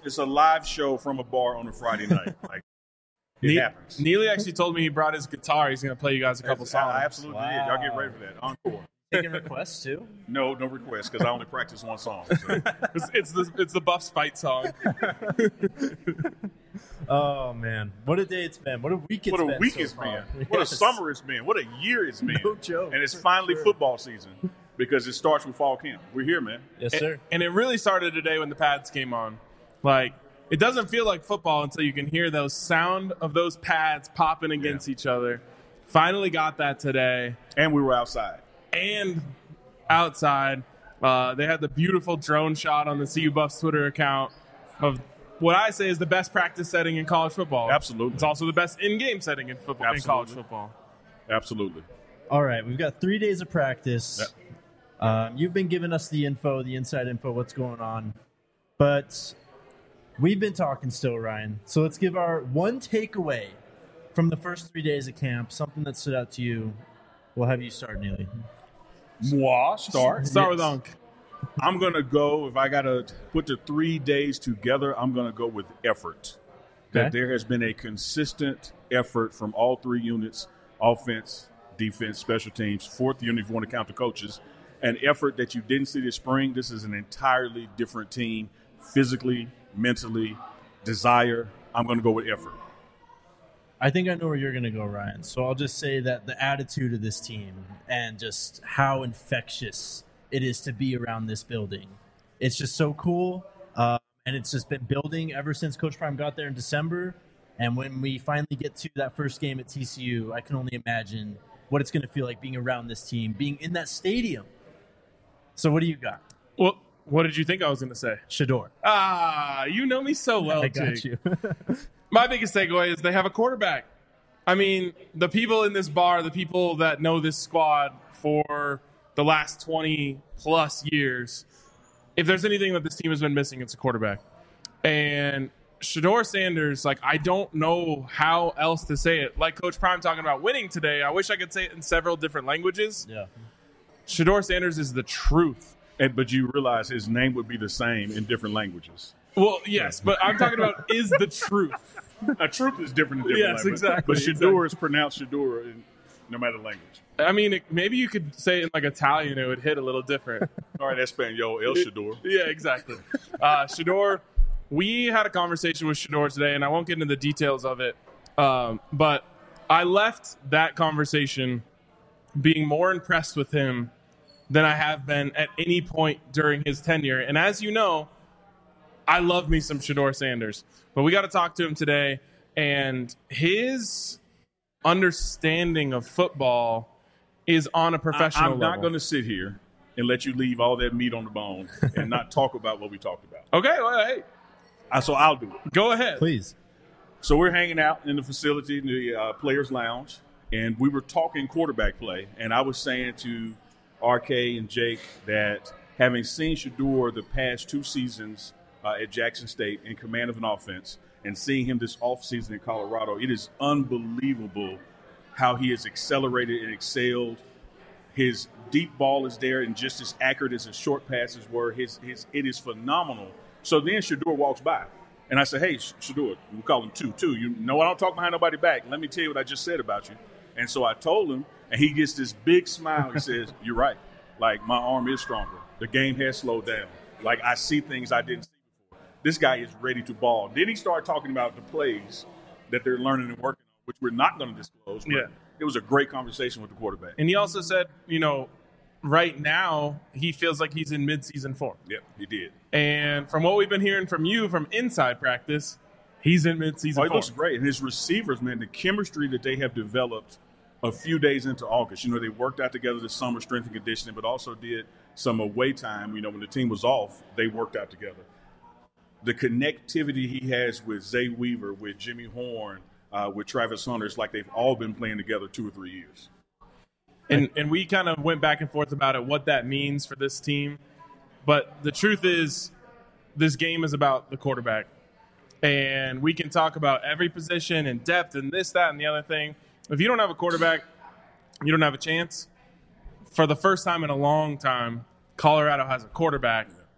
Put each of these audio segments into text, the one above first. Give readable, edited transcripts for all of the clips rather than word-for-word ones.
it's a live show from a bar on a Friday night. Like it happens. Neely actually told me he brought his guitar. He's going to play you guys a couple songs. I absolutely did. Y'all get ready for that. Encore. Taking requests too? No requests because I only practice one song. So. it's the Buffs fight song. Oh man, what a day it's been! What a week it's been! What a week it's been! What a summer it's been! What a year it's been! No joke. And it's finally football season because it starts with fall camp. We're here, man. Yes, sir. And it really started today when the pads came on. Like, it doesn't feel like football until you can hear those sound of those pads popping against each other. Finally got that today. And we were outside. And outside, they had the beautiful drone shot on the CU Buffs Twitter account of what I say is the best practice setting in college football. Absolutely. It's also the best in-game setting in football in college football. Absolutely. All right, we've got 3 days of practice. Yep. You've been giving us the info, the inside info, what's going on. But we've been talking still, Ryan. So let's give our one takeaway from the first 3 days of camp, something that stood out to you. We'll have you start, Neely. Moi, start. Start with Unc. I'm going to go, if I got to put the 3 days together, I'm going to go with effort. That there has been a consistent effort from all 3 units, offense, defense, special teams, 4th unit if you want to count the coaches, an effort that you didn't see this spring. This is an entirely different team, physically, mentally, desire. I'm going to go with effort. I think I know where you're going to go, Ryan. So I'll just say that the attitude of this team and just how infectious it is to be around this building. It's just so cool, and it's just been building ever since Coach Prime got there in December. And when we finally get to that first game at TCU, I can only imagine what it's going to feel like being around this team, being in that stadium. So what do you got? Well, what did you think I was going to say? Shedeur. You know me so well, I got Jake. you. My biggest takeaway is they have a quarterback. I mean, the people in this bar, the people that know this squad for the last 20-plus years, if there's anything that this team has been missing, it's a quarterback. And Shedeur Sanders, like, I don't know how else to say it. Like Coach Prime talking about winning today, I wish I could say it in several different languages. Yeah. Shedeur Sanders is the truth. But you realize his name would be the same in different languages. Well, yes, but I'm talking about is the truth. A truth is different in different languages. Exactly. But Shedeur is pronounced Shedeur in no matter the language. I mean, maybe you could say it in like Italian, it would hit a little different. All right, Espanol, El Shedeur. Yeah, exactly. Shedeur, we had a conversation with Shedeur today, and I won't get into the details of it, but I left that conversation being more impressed with him than I have been at any point during his tenure. And as you know, I love me some Shedeur Sanders. But we got to talk to him today, and his understanding of football is on a professional level. I'm not going to sit here and let you leave all that meat on the bone and not talk about what we talked about. Okay, well, hey. So I'll do it. Go ahead. Please. So we're hanging out in the facility, in the Players Lounge, and we were talking quarterback play. And I was saying to RK and Jake that having seen Shedeur the past 2 seasons at Jackson State in command of an offense and seeing him this offseason in Colorado, it is unbelievable how he has accelerated and excelled. His deep ball is there and just as accurate as his short passes were. It is phenomenal. So then Shedeur walks by, and I say, hey, Shedeur, we call him 2-2. You know I don't talk behind nobody back. Let me tell you what I just said about you. And so I told him, and he gets this big smile. He says, you're right. Like, my arm is stronger. The game has slowed down. Like, I see things I didn't see before. This guy is ready to ball. Then he started talking about the plays that they're learning and working on, which we're not going to disclose. But it was a great conversation with the quarterback. And he also said, right now he feels like he's in midseason form. Yep, he did. And from what we've been hearing from you from inside practice, he's in midseason form. He looks great. And his receivers, man, the chemistry that they have developed a few days into August. They worked out together this summer, strength and conditioning, but also did some away time. When the team was off, they worked out together. The connectivity he has with Zay Weaver, with Jimmy Horn, with Travis Hunter, it's like they've all been playing together 2 or 3 years. And we kind of went back and forth about it, what that means for this team. But the truth is, this game is about the quarterback. And we can talk about every position and depth and this, that, and the other thing. If you don't have a quarterback, you don't have a chance. For the first time in a long time, Colorado has a quarterback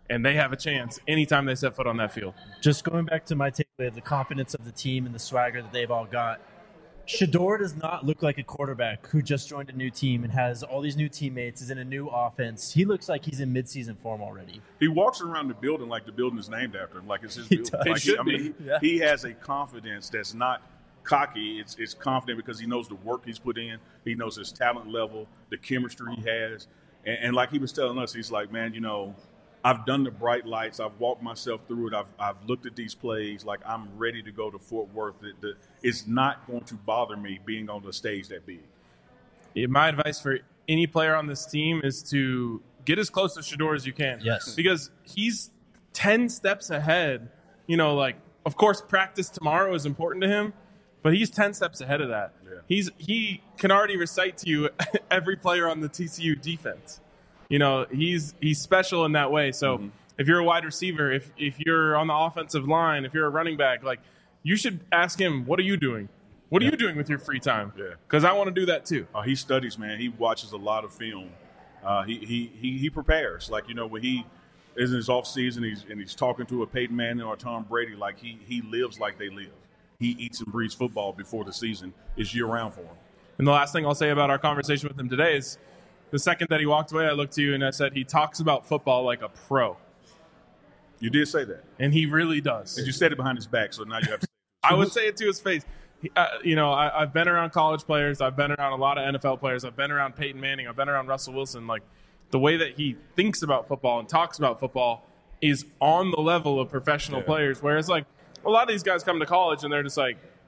and they have a chance anytime they set foot on that field. Just going back to my takeaway of the confidence of the team and the swagger that they've all got, Shedeur does not look like a quarterback who just joined a new team and has all these new teammates, is in a new offense. He looks like he's in midseason form already. He walks around the building like the building is named after him, like it's his building. Like he has a confidence that's not cocky. It's confident because he knows the work he's put in. He knows his talent level, the chemistry he has. And like he was telling us, he's like, man, I've done the bright lights. I've walked myself through it. I've looked at these plays. Like, I'm ready to go to Fort Worth. It's not going to bother me being on the stage that big. My advice for any player on this team is to get as close to Shedeur as you can. Yes. Because he's 10 steps ahead. Of course, practice tomorrow is important to him, but he's 10 steps ahead of that. Yeah. He can already recite to you every player on the TCU defense. He's special in that way. So if you're a wide receiver, if you're on the offensive line, if you're a running back, you should ask him, what are you doing? What are you doing with your free time? Yeah. Because I want to do that too. He studies, man. He watches a lot of film. He prepares. When he is in his off season, he's talking to a Peyton Manning or Tom Brady, he lives like they live. He eats and breathes football before the season is year round for him. And the last thing I'll say about our conversation with him today is, the second that he walked away, I looked to you and I said, he talks about football like a pro. You did say that. And he really does. And you said it behind his back, so now you have to say it. I would say it to his face. I've been around college players. I've been around a lot of NFL players. I've been around Peyton Manning. I've been around Russell Wilson. The way that he thinks about football and talks about football is on the level of professional players. Whereas, a lot of these guys come to college and they're just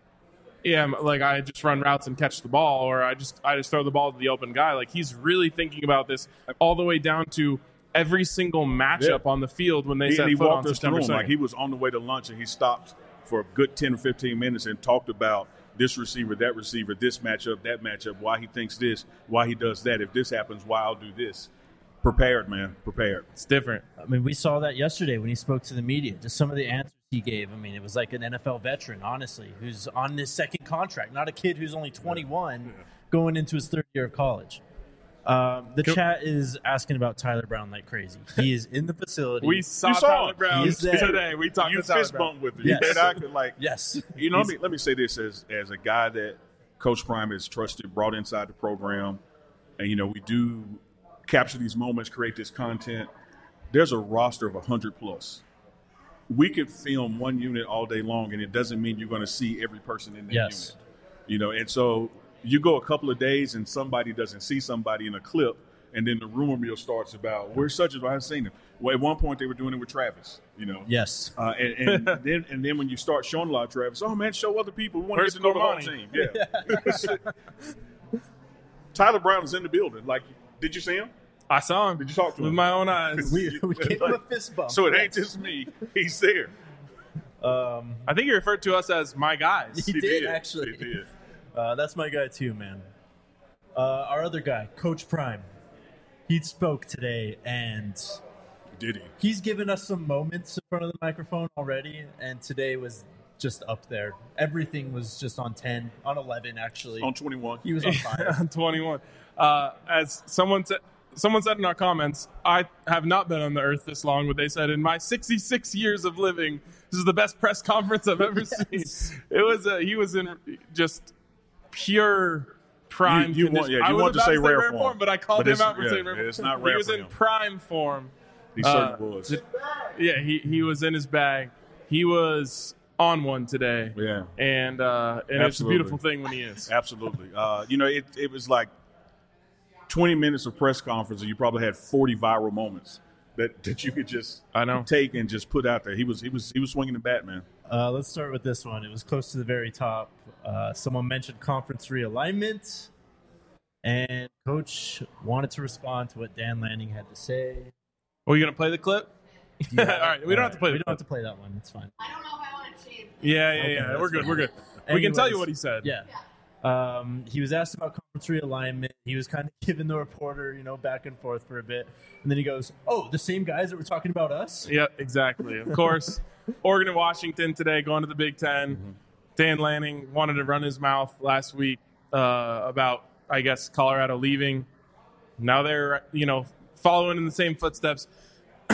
I just run routes and catch the ball, or I just throw the ball to the open guy. He's really thinking about this all the way down to every single matchup on the field when they set foot on September 2nd. He was on the way to lunch and he stopped for a good 10 or 15 minutes and talked about this receiver, that receiver, this matchup, that matchup, why he thinks this, why he does that. If this happens, why I'll do this. Prepared, man. Prepared. It's different. We saw that yesterday when he spoke to the media. Just some of the answers he gave. It was like an NFL veteran, honestly, who's on his second contract, not a kid who's only 21 going into his third year of college. Chat is asking about Tyler Brown like crazy. He is in the facility. We saw Tyler Brown today. We talked to Tyler fist Brown. bumped with him. Yes. Yes. Let me say this as a guy that Coach Prime has trusted, brought inside the program, and we do capture these moments, create this content. There's a roster of 100+. We could film one unit all day long, and it doesn't mean you're going to see every person in that unit. And so you go a couple of days and somebody doesn't see somebody in a clip, and then the rumor mill starts about where's such as I haven't seen him. Well, at one point they were doing it with Travis. Yes. And then when you start showing a lot of Travis, oh man, show other people. We want to get to know the whole team. Yeah. Tyler Brown is in the building. Did you see him? I saw him. Did you talk to him? With my own eyes. We gave him a fist bump. So it ain't just me. He's there. I think he referred to us as my guys. He did, actually. He did. That's my guy too, man. Our other guy, Coach Prime. He spoke today, and did he? He's given us some moments in front of the microphone already, and today was just up there. Everything was just on 10, on 11, actually. On 21. He was on fire. On 21. As someone said in our comments, I have not been on the earth this long, but they said in my 66 years of living, this is the best press conference I've ever seen. It was he was in just pure prime condition. You want to say rare form, but I called him out for saying rare form. It's not rare. He was in prime form. He certainly was. Yeah, he was in his bag. He was on one today. Yeah. And it's a beautiful thing when he is. Absolutely. It was like 20 minutes of press conference, and you probably had 40 viral moments that you could just take and just put out there. He was swinging the bat, man. Let's start with this one. It was close to the very top. Someone mentioned conference realignment, and Coach wanted to respond to what Dan Lanning had to say. Are you going to play the clip? Yeah. All right, we don't have to play. We don't have to play that one. It's fine. I don't know if I want to change. Yeah. We're good. Fine. We're good. Anyways, we can tell you what he said. Yeah. He was asked about conference realignment. He was kind of giving the reporter, back and forth for a bit. And then he goes, oh, the same guys that were talking about us? Yeah, exactly. Of course, Oregon and Washington today going to the Big Ten. Mm-hmm. Dan Lanning wanted to run his mouth last week about, I guess, Colorado leaving. Now they're, following in the same footsteps.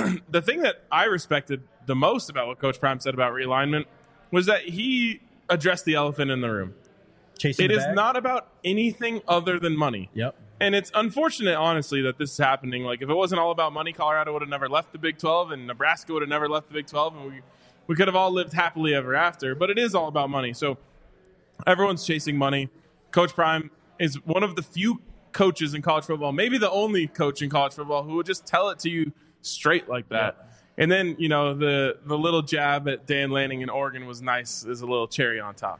the thing that I respected the most about what Coach Prime said about realignment was that he addressed the elephant in the room. Chasing It the is bag? not about anything other than money. Yep. And it's unfortunate, honestly, that this is happening. Like, if it wasn't all about money, Colorado would have never left the Big 12, and Nebraska would have never left the Big 12, and we could have all lived happily ever after. But it is all about money. So everyone's chasing money. Coach Prime is one of the few coaches in college football, maybe the only coach in college football, who would just tell it to you straight like that. Yeah. And then, the little jab at Dan Lanning in Oregon was nice as a little cherry on top.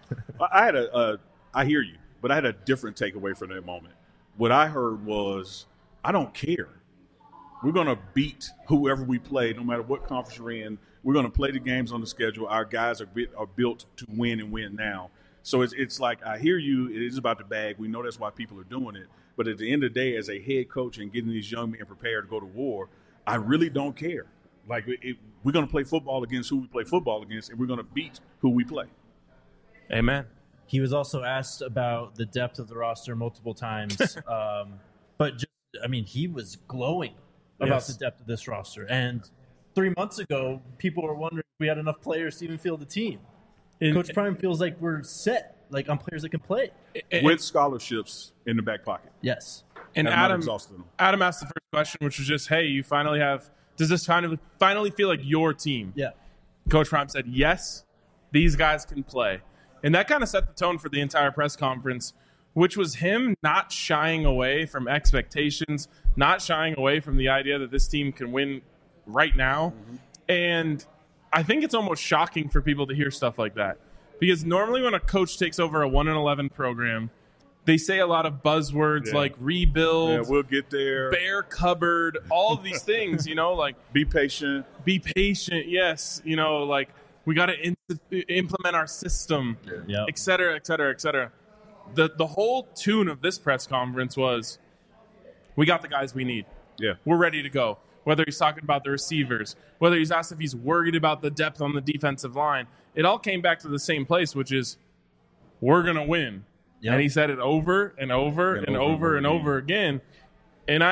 I hear you, but I had a different takeaway from that moment. What I heard was, I don't care. We're going to beat whoever we play, no matter what conference we're in. We're going to play the games on the schedule. Our guys are built to win and win now. So it's like, I hear you. It is about the bag. We know that's why people are doing it. But at the end of the day, as a head coach and getting these young men prepared to go to war, I really don't care. Like, we're going to play football against who we play football against, and we're going to beat who we play. Amen. He was also asked about the depth of the roster multiple times. But, he was glowing about Yes. the depth of this roster. And 3 months ago, people were wondering if we had enough players to even field the team. Coach Prime feels like we're set, like on players that can play. With scholarships in the back pocket. Yes. And Have not exhausted them. Adam asked the first question, which was just, hey, you finally have – does this finally feel like your team? Yeah. Coach Prime said, yes, these guys can play. And that kind of set the tone for the entire press conference, which was him not shying away from expectations, not shying away from the idea that this team can win right now. Mm-hmm. And I think it's almost shocking for people to hear stuff like that. Because normally when a coach takes over a 1-11 program, they say a lot of buzzwords like rebuild, Yeah, we'll get there. bare cupboard, all of these things, like Be patient. be patient. Yes. Like we got to implement our system, Yeah. et cetera, et cetera, et cetera. The whole tune of this press conference was, we got the guys we need. Yeah. We're ready to go. Whether he's talking about the receivers, whether he's asked if he's worried about the depth on the defensive line, it all came back to the same place, which is we're going to win. Yep. And he said it over and over and over and over again. And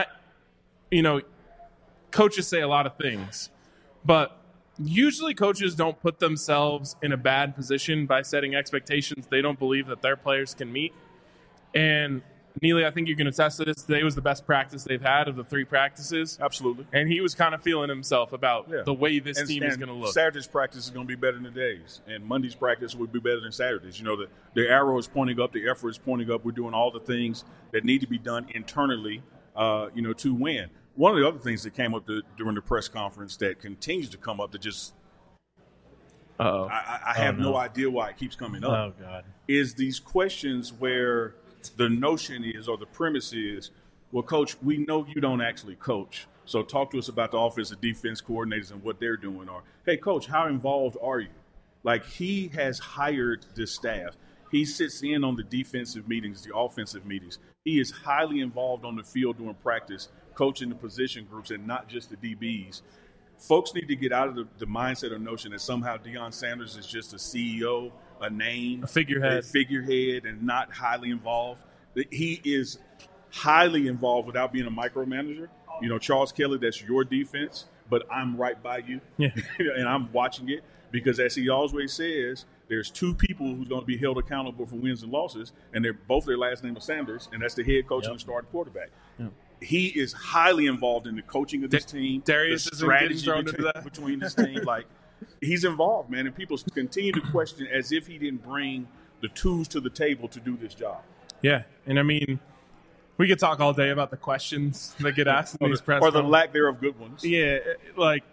coaches say a lot of things, but usually coaches don't put themselves in a bad position by setting expectations they don't believe that their players can meet. And Neely, I think you can attest to this. Today was the best practice they've had of the 3 practices. Absolutely. And he was kind of feeling himself about the way this team is going to look. Saturday's practice is going to be better than today's, and Monday's practice would be better than Saturday's. The arrow is pointing up, the effort is pointing up. We're doing all the things that need to be done internally, to win. One of the other things that came up during the press conference that continues to come up that just I have no idea why it keeps coming up. Oh, God. Is these questions where the notion is, or the premise is, well, Coach, we know you don't actually coach, so talk to us about the offensive defense coordinators and what they're doing. Or, hey, Coach, how involved are you? Like, he has hired this staff. He sits in on the defensive meetings, the offensive meetings. He is highly involved on the field during practice, coaching the position groups and not just the DBs. Folks need to get out of the mindset or notion that somehow Deion Sanders is just a CEO, a name, A figurehead, and not highly involved. He is highly involved without being a micromanager. Charles Kelly, that's your defense, but I'm right by you, and I'm watching it because, as he always says, there's 2 people who's going to be held accountable for wins and losses, and their last name is Sanders, and that's the head coach and the starting quarterback. Yep. He is highly involved in the coaching of this team, Darius the isn't getting strategy thrown into that. between this team. Like, he's involved, man, and people continue to question as if he didn't bring the tools to the table to do this job. Yeah, and we could talk all day about the questions that get asked in these press or the conferences. lack thereof good ones. Yeah, like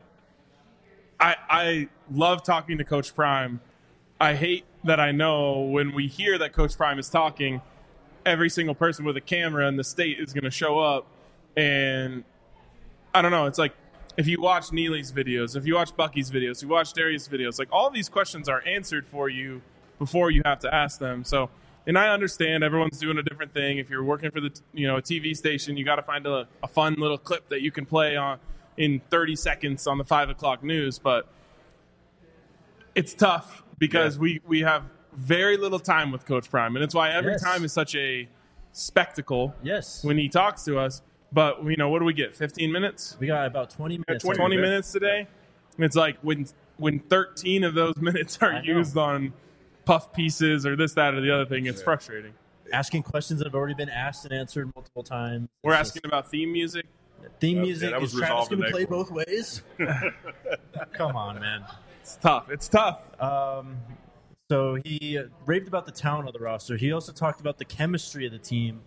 I love talking to Coach Prime. I hate that I know when we hear that Coach Prime is talking, every single person with a camera in the state is going to show up. And I don't know. It's like if you watch Neely's videos, if you watch Bucky's videos, if you watch Darius' videos, like all these questions are answered for you before you have to ask them. So, and I understand everyone's doing a different thing. If you're working for a TV station, you got to find a fun little clip that you can play on in 30 seconds on the 5 o'clock news. But it's tough because we have very little time with Coach Prime. And it's why every time is such a spectacle when he talks to us. But, what do we get, 15 minutes? We got about 20 minutes. 20 minutes today? It's like when 13 of those minutes are used on puff pieces or this, that, or the other thing, it's frustrating. Asking questions that have already been asked and answered multiple times. We're asking about theme music. Theme music. that was Is Travis resolved going to today. play both ways? Come on, man. It's tough. So he raved about the talent of the roster. He also talked about the chemistry of the team.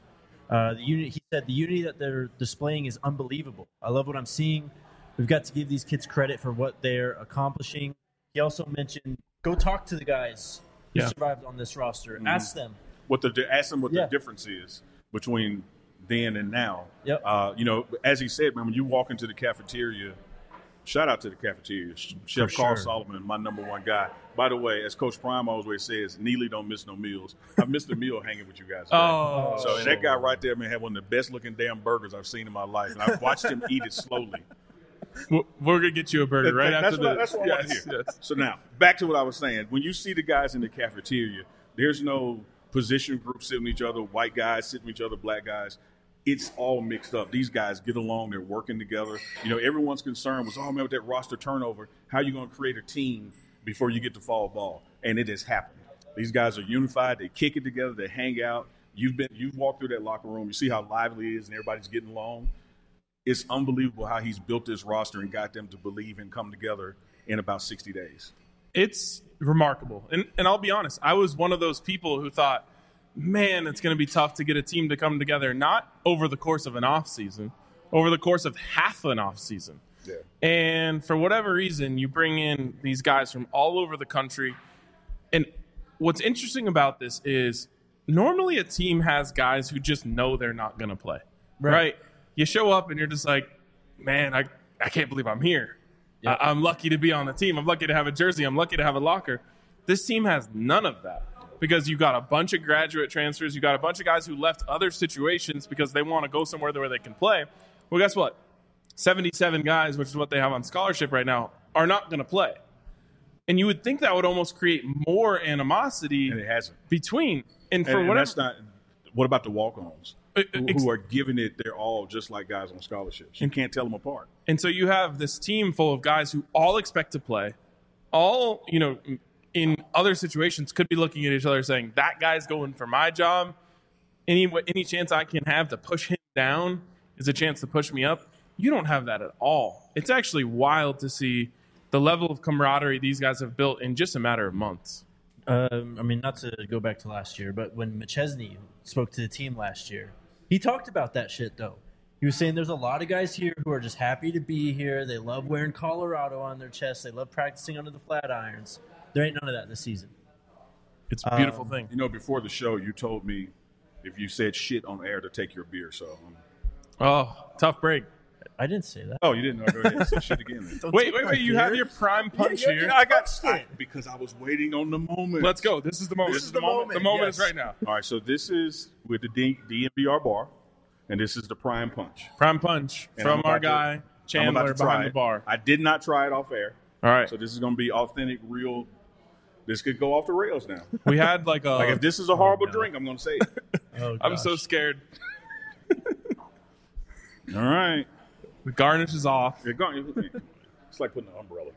He said the unity that they're displaying is unbelievable. I love what I'm seeing. We've got to give these kids credit for what they're accomplishing. He also mentioned, go talk to the guys who survived on this roster. Mm-hmm. Ask them. Ask them what the difference is between then and now. Yep. As he said, man, when you walk into the cafeteria, shout out to the cafeteria. Chef Carl Solomon, my number one guy. By the way, as Coach Prime always says, Neely don't miss no meals. I've missed a meal hanging with you guys today. And that guy right there, man, had one of the best looking damn burgers I've seen in my life. And I've watched him eat it slowly. We're going to get you a burger right after this. That's what I want to hear. Yes. So now, back to what I was saying. When you see the guys in the cafeteria, there's no position group sitting with each other, white guys sitting with each other, black guys. It's all mixed up. These guys get along. They're working together. Everyone's concern was, oh, man, with that roster turnover, how are you going to create a team before you get to fall ball? And it has happened. These guys are unified. They kick it together. They hang out. You've walked through that locker room. You see how lively it is and everybody's getting along. It's unbelievable how he's built this roster and got them to believe and come together in about 60 days. It's remarkable. And I'll be honest, I was one of those people who thought, man, it's going to be tough to get a team to come together, not over the course of an off season, over the course of half an off season. Yeah. And for whatever reason, you bring in these guys from all over the country. And what's interesting about this is normally a team has guys who just know they're not going to play, right? You show up and you're just like, man, I can't believe I'm here. Yep. I'm lucky to be on the team. I'm lucky to have a jersey. I'm lucky to have a locker. This team has none of that because you got a bunch of graduate transfers. You got a bunch of guys who left other situations because they want to go somewhere where they can play. Well, guess what? 77 guys, which is what they have on scholarship right now, are not going to play. And you would think that would almost create more animosity And it hasn't. between. And that's not – what about the walk-ons? Who are giving it their all just like guys on scholarships. You can't tell them apart. And so you have this team full of guys who all expect to play, all, in other situations could be looking at each other saying, that guy's going for my job. Any chance I can have to push him down is a chance to push me up. You don't have that at all. It's actually wild to see the level of camaraderie these guys have built in just a matter of months. Not to go back to last year, but when McChesney spoke to the team last year, he talked about that shit, though. He was saying there's a lot of guys here who are just happy to be here. They love wearing Colorado on their chest. They love practicing under the flat irons. There ain't none of that this season. It's a beautiful thing. Before the show, you told me if you said shit on air to take your beer. So, Tough break. I didn't say that. Oh, you didn't know. Go ahead. Say shit again. Then. Wait. You have your prime punch here. I got because I was waiting on the moment. Let's go. This is the moment. This is the moment. The moment is right now. All right. So this is with the DNVR bar, and this is the prime punch. Prime punch And from our guy Chandler behind the bar. I did not try it off air. All right. So this is going to be authentic, real. This could go off the rails now. We had like if this is a horrible drink, I'm going to say it. I'm so scared. All right. The garnish is off. It's like putting an umbrella.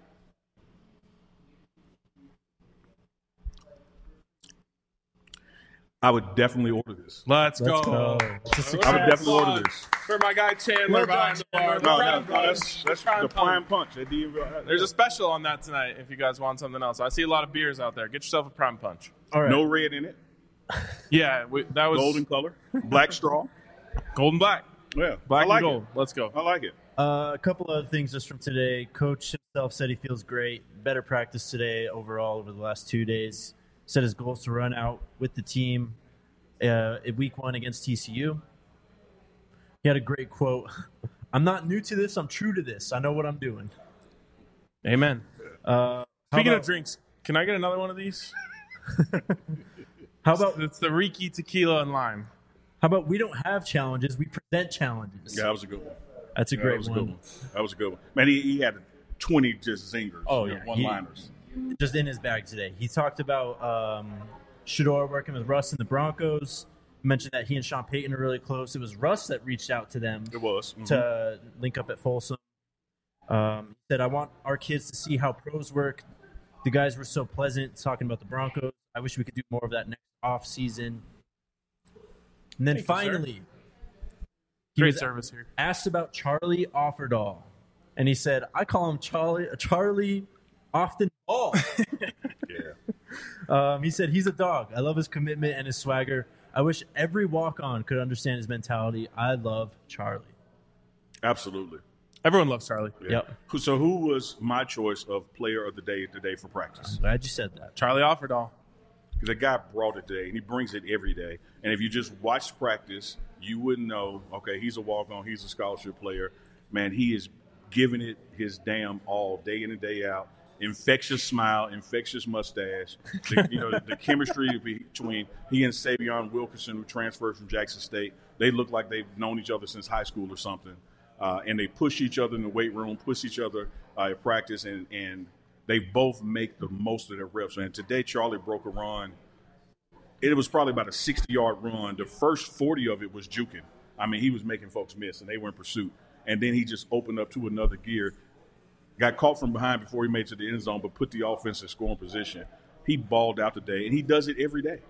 I would definitely order this. Let's go. I would definitely order this. For my guy Chandler behind the bar. No, that's the prime punch. There's a special on that tonight if you guys want something else. I see a lot of beers out there. Get yourself a prime punch. All right. No red in it. Yeah, that was Golden color. Black straw. Golden black. Yeah. Black I like and gold. it. Let's go. I like it. A couple other things just from today. Coach himself said he feels great. Better practice today overall over the last 2 days. Set his goals to run out with the team at week 1 against TCU. He had a great quote. I'm not new to this. I'm true to this. I know what I'm doing. Amen. Speaking of drinks, can I get another one of these? How about it's the Riki tequila and lime. How about we don't have challenges, we present challenges? Yeah, that was a good one. That's a great one. That was a good one. Man, he had 20 just zingers. Oh, yeah. One-liners. Just in his bag today. He talked about Shedeur working with Russ in the Broncos, mentioned that he and Sean Payton are really close. It was Russ that reached out to them It was. to link up at Folsom. He said, I want our kids to see how pros work. The guys were so pleasant talking about the Broncos. I wish we could do more of that next off season. And then Thank you, finally, he Great was service here. asked about Charlie Offerdahl. And he said, I call him Charlie Often Ball. Yeah. He said, he's a dog. I love his commitment and his swagger. I wish every walk-on could understand his mentality. I love Charlie. Absolutely. Everyone loves Charlie. Yeah. Yep. So who was my choice of player of the day today for practice? I'm glad you said that. Charlie Offerdahl. Because the guy brought it today, and he brings it every day. And if you just watch practice, you wouldn't know, okay, he's a walk-on, he's a scholarship player. Man, he is giving it his damn all day in and day out. Infectious smile, infectious mustache. The chemistry between he and Savion Wilkerson, who transferred from Jackson State, they look like they've known each other since high school or something. And they push each other in the weight room, push each other at practice, and they both make the most of their reps. And today, Charlie broke a run. It was probably about a 60-yard run. The first 40 of it was juking. I mean, he was making folks miss, and they were in pursuit. And then he just opened up to another gear. Got caught from behind before he made it to the end zone, but put the offense in scoring position. He balled out today, and he does it every day.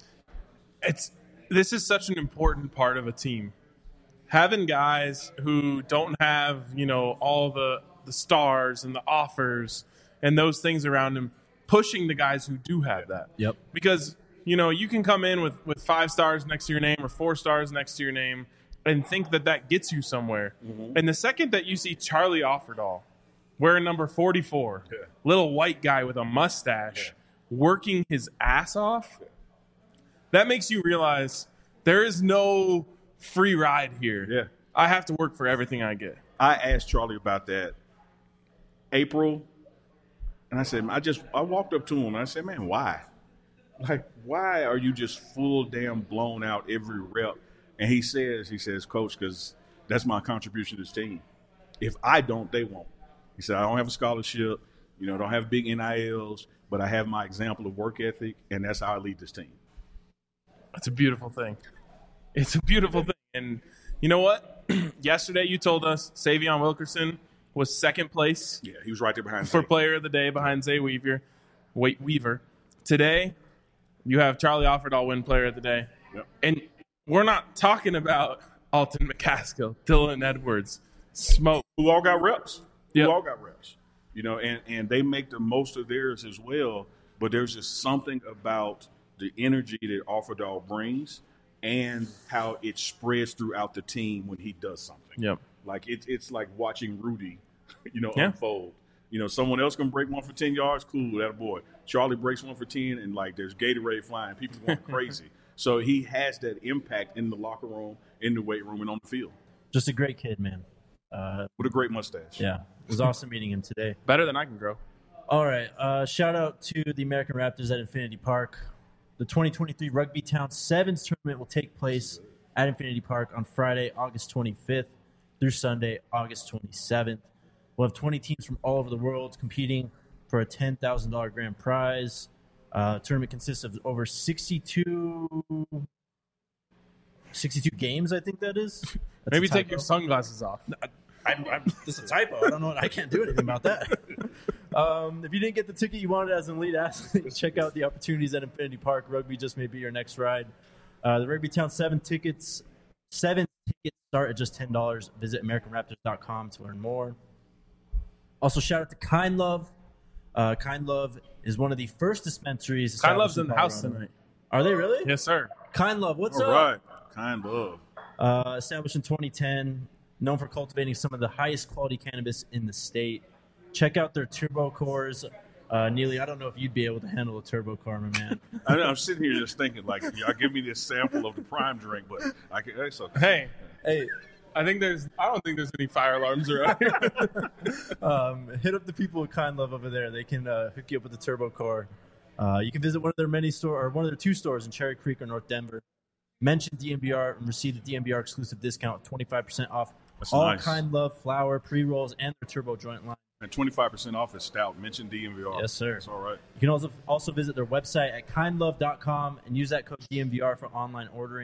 This is such an important part of a team. Having guys who don't have, all the stars and the offers and those things around him, pushing the guys who do have that. Yep. Because, you can come in with 5 stars next to your name or 4 stars next to your name and think that gets you somewhere. Mm-hmm. And the second that you see Charlie Offerdahl wearing number 44, little white guy with a mustache, working his ass off, that makes you realize there is no free ride here. Yeah. I have to work for everything I get. I asked Charlie about that April, and I said, I walked up to him and I said, man, why? Like, why are you just full damn blown out every rep? And he says, Coach, because that's my contribution to this team. If I don't, they won't. He said, I don't have a scholarship, don't have big NILs, but I have my example of work ethic, and that's how I lead this team. That's a beautiful thing. It's a beautiful thing. And you know what? Yesterday you told us Savion Wilkerson was second place. Yeah, he was right there behind for Zay. Player of the Day behind Zay Weaver. Today, you have Charlie Offerdahl win Player of the Day. Yep. And we're not talking about Alton McCaskill, Dylan Edwards, Smoke. Who all got reps. Yep. Who all got reps. And they make the most of theirs as well. But there's just something about the energy that Offerdahl brings and how it spreads throughout the team when he does something. Yep. Like it's like watching Rudy, unfold. Someone else can break one for 10 yards, cool, that boy. Charlie breaks one for 10, and there's Gatorade flying. People going crazy. So he has that impact in the locker room, in the weight room, and on the field. Just a great kid, man. With a great mustache. Yeah. It was awesome meeting him today. Better than I can grow. All right. Shout out to the American Raptors at Infinity Park. The 2023 Rugby Town Sevens tournament will take place at Infinity Park on Friday, August 25th through Sunday, August 27th. We'll have 20 teams from all over the world competing for a $10,000 grand prize. Tournament consists of over 62 games, I think that is. That's Maybe take your sunglasses off. This is a typo. I don't know. I can't do anything about that. If you didn't get the ticket you wanted as an elite athlete, check out the opportunities at Infinity Park. Rugby just may be your next ride. The Rugby Town 7 tickets start at just $10. Visit AmericanRaptors.com to learn more. Also, shout out to Kind Love. Kind Love is one of the first dispensaries. Kind Love's in the house tonight. Are they really? Yes, sir. Kind Love, what's All up? right. Kind Love. Established in 2010, known for cultivating some of the highest quality cannabis in the state. Check out their turbo cores. Neely, I don't know if you'd be able to handle a turbo core, my man. I'm sitting here just thinking, y'all give me this sample of the prime drink, but I can. It's okay. Hey, I don't think there's any fire alarms around here. Hit up the people at Kind Love over there. They can hook you up with the turbo core. You can visit one of their 2 stores in Cherry Creek or North Denver. Mention DNVR and receive the DNVR exclusive discount of 25% off all nice. Kind Love flower, pre-rolls, and their turbo joint line. And 25% off is stout. Mention DNVR. Yes, sir. That's all right. You can also visit their website at kindlove.com and use that code DNVR for online ordering.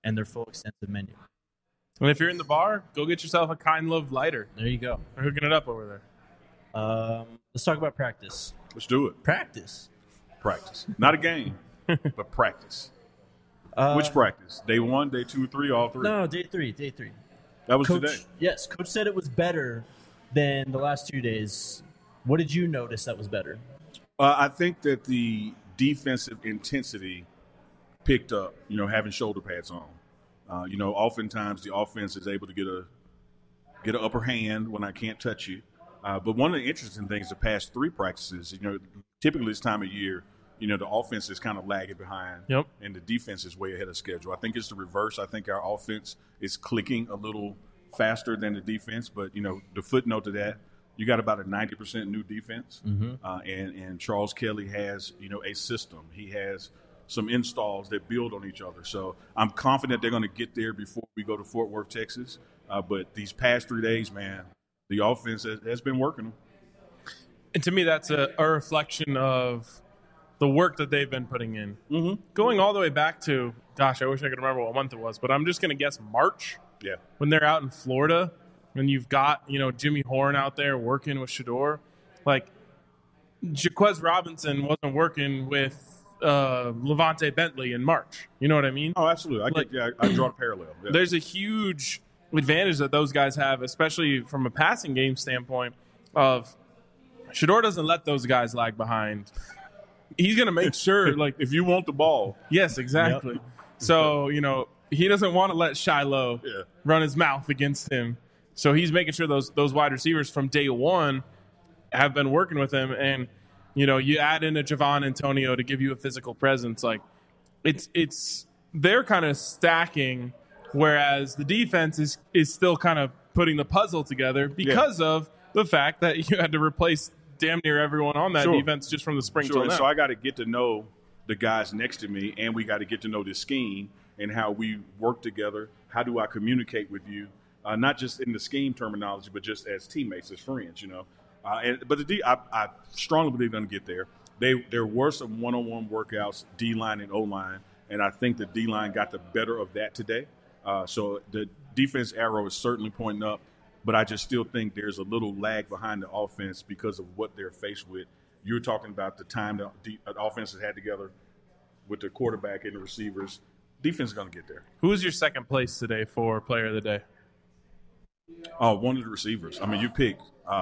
and their full extensive menu. And if you're in the bar, go get yourself a Kind Love lighter. There you go. They're hooking it up over there. Let's talk about practice. Let's do it. Practice. Not a game, but practice. Which practice? Day 1, day 2, 3, all 3? No, day three. That was Coach, today. Yes, Coach said it was better than the last 2 days. What did you notice that was better? I think that the defensive intensity picked up, having shoulder pads on. Oftentimes the offense is able to get an upper hand when I can't touch you. But one of the interesting things the past 3 practices, typically this time of year, the offense is kind of lagging behind, Yep. and the defense is way ahead of schedule. I think it's the reverse. I think our offense is clicking a little faster than the defense. But, the footnote to that, you got about a 90% new defense, and Charles Kelly has, a system. He has some installs that build on each other. So I'm confident they're going to get there before we go to Fort Worth, Texas. But these past 3 days, man, the offense has been working. And to me, that's a reflection of the work that they've been putting in. Mm-hmm. Going all the way back to, gosh, I wish I could remember what month it was, but I'm just going to guess March. Yeah. When they're out in Florida, and you've got, Jimmy Horn out there working with Shedeur. Like, Jaquez Robinson wasn't working with Levante Bentley in March. You know what I mean? Oh, absolutely. I draw a parallel. Yeah. There's a huge advantage that those guys have, especially from a passing game standpoint, of Shedeur doesn't let those guys lag behind. He's going to make sure, like, if you want the ball. Yes, exactly. Yep. So, he doesn't want to let Shiloh run his mouth against him. So he's making sure those wide receivers from day one have been working with him. And, you add in a Javon Antonio to give you a physical presence. Like, they're kind of stacking, whereas the defense is still kind of putting the puzzle together because of the fact that you had to replace damn near everyone on that defense just from the spring till now. So I got to get to know the guys next to me, and we got to get to know this scheme and how we work together. How do I communicate with you, not just in the scheme terminology, but just as teammates, as friends, I strongly believe they're going to get there. There were some one-on-one workouts, D-line and O-line, and I think the D-line got the better of that today. So the defense arrow is certainly pointing up. But I just still think there's a little lag behind the offense because of what they're faced with. You're talking about the time the offense has had together with the quarterback and the receivers. Defense is going to get there. Who was your second place today for player of the day? One of the receivers. I mean, you picked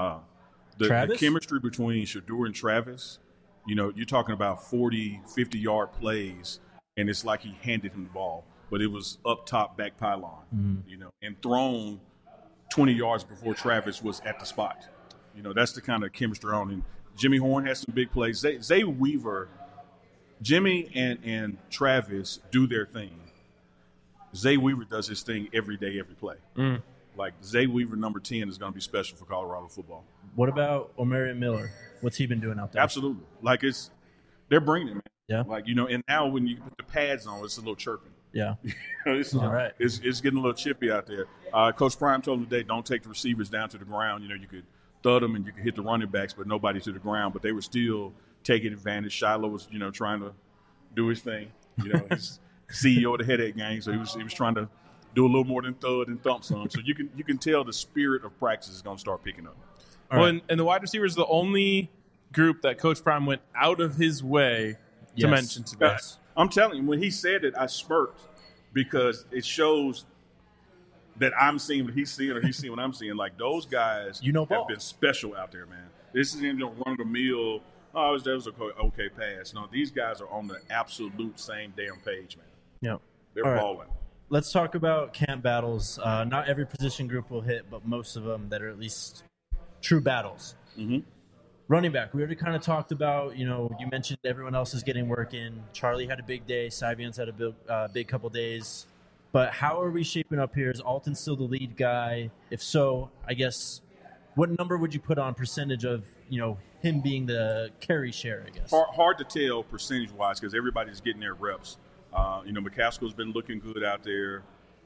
the chemistry between Shedeur and Travis. You're talking about 40, 50-yard plays, and it's like he handed him the ball. But it was up top, back pylon, and thrown 20 yards before Travis was at the spot. That's the kind of chemistry on him. Jimmy Horn has some big plays. Zay Weaver, Jimmy and Travis do their thing. Zay Weaver does his thing every day, every play. Like, Zay Weaver, number 10, is going to be special for Colorado football. What about Omarion Miller? What's he been doing out there? Absolutely. Like, they're bringing it, man. Yeah. Like, and now when you put the pads on, it's a little chirping. Yeah. It's getting a little chippy out there. Coach Prime told him today, don't take the receivers down to the ground. You could thud them and you could hit the running backs, but nobody to the ground. But they were still taking advantage. Shiloh was, trying to do his thing. He's CEO of the Headache Gang, so he was trying to do a little more than thud and thump some. So you can tell the spirit of practice is going to start picking up. And the wide receivers are the only group that Coach Prime went out of his way to mention today. I'm telling you, when he said it, I smirked because it shows that I'm seeing what he's seeing or he's seeing what I'm seeing. Like, those guys have been special out there, man. This isn't run-of-the-mill, that was an okay pass. No, these guys are on the absolute same damn page, man. Yeah. They're balling. Let's talk about camp battles. Not every position group will hit, but most of them that are at least true battles. Mm-hmm. Running back, we already kind of talked about, you mentioned everyone else is getting work in. Charlie had a big day. Sybian's had a big couple days. But how are we shaping up here? Is Alton still the lead guy? If so, I guess, what number would you put on percentage of, him being the carry share, I guess? Hard to tell percentage-wise because everybody's getting their reps. McCaskill's been looking good out there.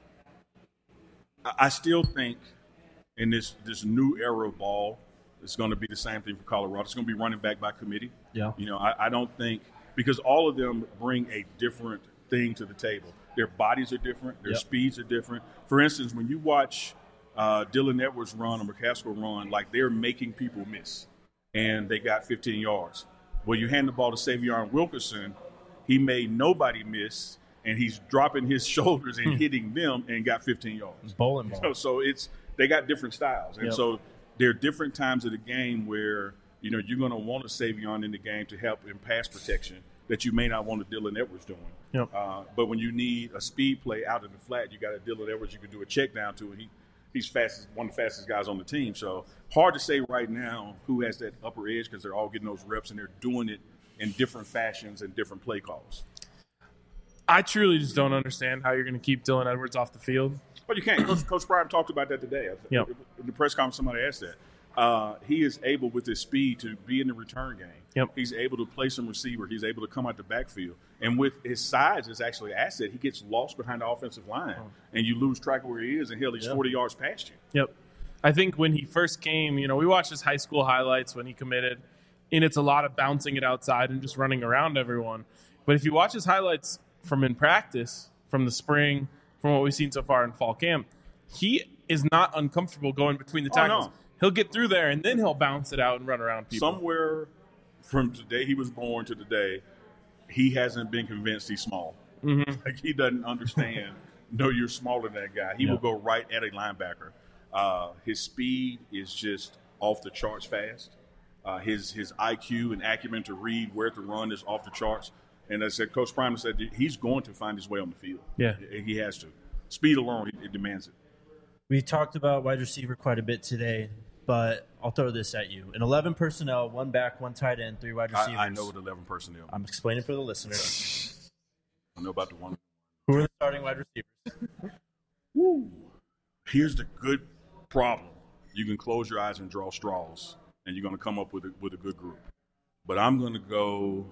I still think in this new era of ball, it's going to be the same thing for Colorado. It's going to be running back by committee. Yeah. I don't think – because all of them bring a different thing to the table. Their bodies are different. Their Yep. speeds are different. For instance, when you watch Dylan Edwards run or McCaskill run, like they're making people miss, and they got 15 yards. Well, you hand the ball to Savion Wilkerson, he made nobody miss, and he's dropping his shoulders and hitting them and got 15 yards. Bowling ball. So they got different styles, and Yep. so there are different times of the game where you're going to want a Savion in the game to help in pass protection that you may not want a Dylan Edwards doing. Yep. But when you need a speed play out in the flat, you got a Dylan Edwards you can do a check down to, and he's fastest, one of the fastest guys on the team. So hard to say right now who has that upper edge because they're all getting those reps and they're doing it in different fashions and different play calls. I truly just don't understand how you're going to keep Dylan Edwards off the field. But you can't. Coach Prime talked about that today. Yep. In the press conference, somebody asked that. He is able, with his speed, to be in the return game. Yep. He's able to play some receiver. He's able to come out the backfield. And with his size, is actually an asset. He gets lost behind the offensive line, and you lose track of where he is, and he's 40 yards past you. Yep. I think when he first came, we watched his high school highlights when he committed, and it's a lot of bouncing it outside and just running around everyone. But if you watch his highlights from in practice, from the spring, from what we've seen so far in fall camp, he is not uncomfortable going between the tackles. No. He'll get through there, and then he'll bounce it out and run around people. Somewhere from the day he was born to today, he hasn't been convinced he's small. Mm-hmm. Like he doesn't understand. No, you're smaller than that guy. He will go right at a linebacker. His speed is just off the charts fast. His IQ and acumen to read where to run is off the charts. And as I said, Coach Prime said he's going to find his way on the field. Yeah. He has to. Speed alone, it demands it. We talked about wide receiver quite a bit today, but I'll throw this at you. In 11 personnel, 1 back, 1 tight end, 3 wide receivers. I know what 11 personnel. I'm explaining for the listeners. I know about the one. Who are the starting wide receivers? Woo. Here's the good problem. You can close your eyes and draw straws, and you're going to come up with a good group. But I'm going to go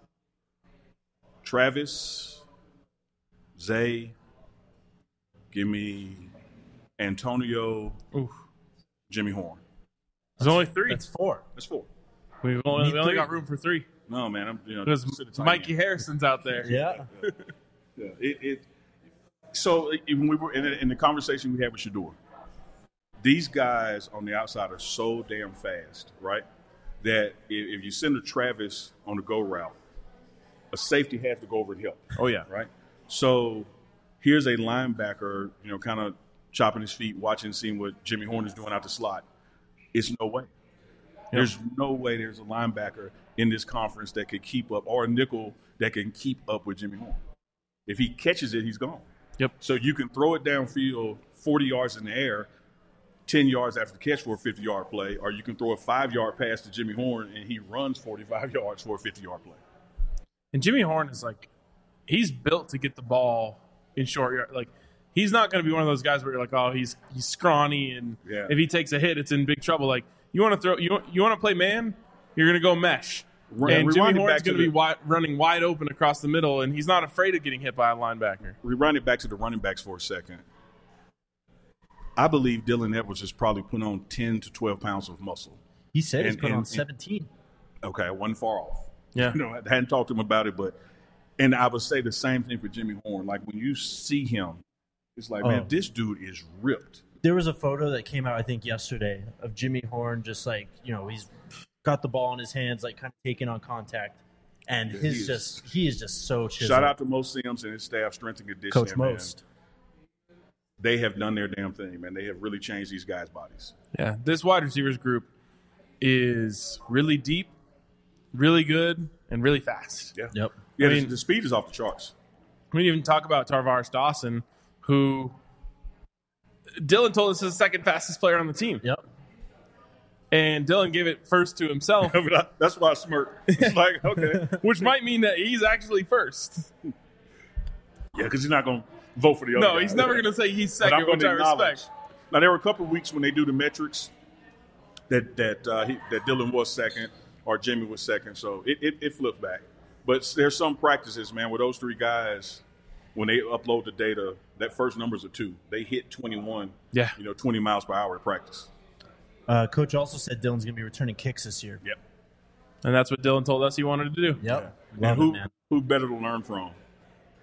Travis, Zay, give me Antonio, Jimmy Horn. There's only 3. That's 4. That's 4. We only three. got room for 3. No, man. Because Mikey Harrison's out there. Yeah. Yeah. So when we were in the conversation we had with Shedeur, these guys on the outside are so damn fast, right? That if you send a Travis on the go route, a safety has to go over and help. Oh, yeah. Right? So here's a linebacker, kind of chopping his feet, watching, seeing what Jimmy Horn is doing out the slot. It's no way. There's no way there's a linebacker in this conference that could keep up, or a nickel that can keep up with Jimmy Horn. If he catches it, he's gone. Yep. So you can throw it downfield 40 yards in the air, 10 yards after the catch for a 50-yard play, or you can throw a 5-yard pass to Jimmy Horn and he runs 45 yards for a 50-yard play. And Jimmy Horn is he's built to get the ball in short yard. He's not going to be one of those guys where you're like, oh, he's scrawny, and if he takes a hit, it's in big trouble. You want to throw, you want to play man, you're going to go mesh. And Jimmy Horn's going to be running wide open across the middle, and he's not afraid of getting hit by a linebacker. Rewind it back to the running backs for a second. I believe Dylan Edwards has probably put on 10 to 12 pounds of muscle. He said he's put on 17. Okay, I wasn't far off. Yeah. I hadn't talked to him about it, and I would say the same thing for Jimmy Horn. Like, when you see him, it's like, man, this dude is ripped. There was a photo that came out, I think, yesterday of Jimmy Horn just he's got the ball in his hands, kind of taking on contact. And he is just so chiseled. Shout out to Mo Sims and his staff, strength and conditioning. Coach Most. They have done their damn thing, man. They have really changed these guys' bodies. Yeah, this wide receivers group is really deep, really good, and really fast. Yeah. Yep. Yeah, the speed is off the charts. We didn't even talk about Tarvaris Dawson, who Dylan told us is the second fastest player on the team. Yep. And Dylan gave it first to himself. That's why I smirked. It's like, okay. Which might mean that he's actually first. Yeah, because he's not going to vote for the other guy. No, he's never going to say he's second, which I respect. Now, there were a couple of weeks when they do the metrics that Dylan was second or Jimmy was second, so it flipped back. But there's some practices, man, where those 3 guys, when they upload the data, that first number's a 2. They hit 21, 20 miles per hour at practice. Coach also said Dylan's going to be returning kicks this year. Yep. And that's what Dylan told us he wanted to do. Yep. Yeah. And who better to learn from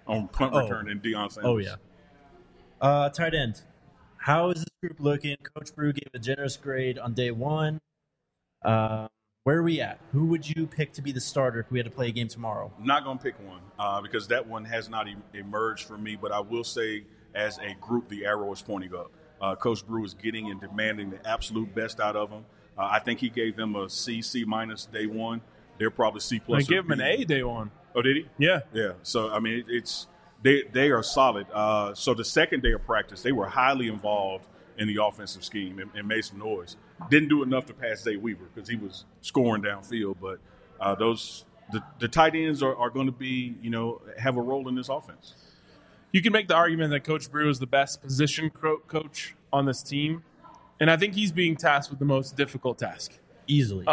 on punt return than Deion Sanders. Oh, yeah. Tight end. How is this group looking? Coach Brew gave a generous grade on day one. Where are we at? Who would you pick to be the starter if we had to play a game tomorrow? I'm not going to pick one because that one has not emerged for me, but I will say as a group, the arrow is pointing up. Coach Brew is getting and demanding the absolute best out of them. I think he gave them a C minus day one. They're probably C plus. They gave him an A day one. Oh, did he? Yeah. Yeah. So, I mean, they are solid. So the second day of practice, they were highly involved in the offensive scheme and made some noise. Didn't do enough to pass Zay Weaver because he was scoring downfield. But the tight ends are going to be, have a role in this offense. You can make the argument that Coach Brew is the best position coach on this team, and I think he's being tasked with the most difficult task. Easily.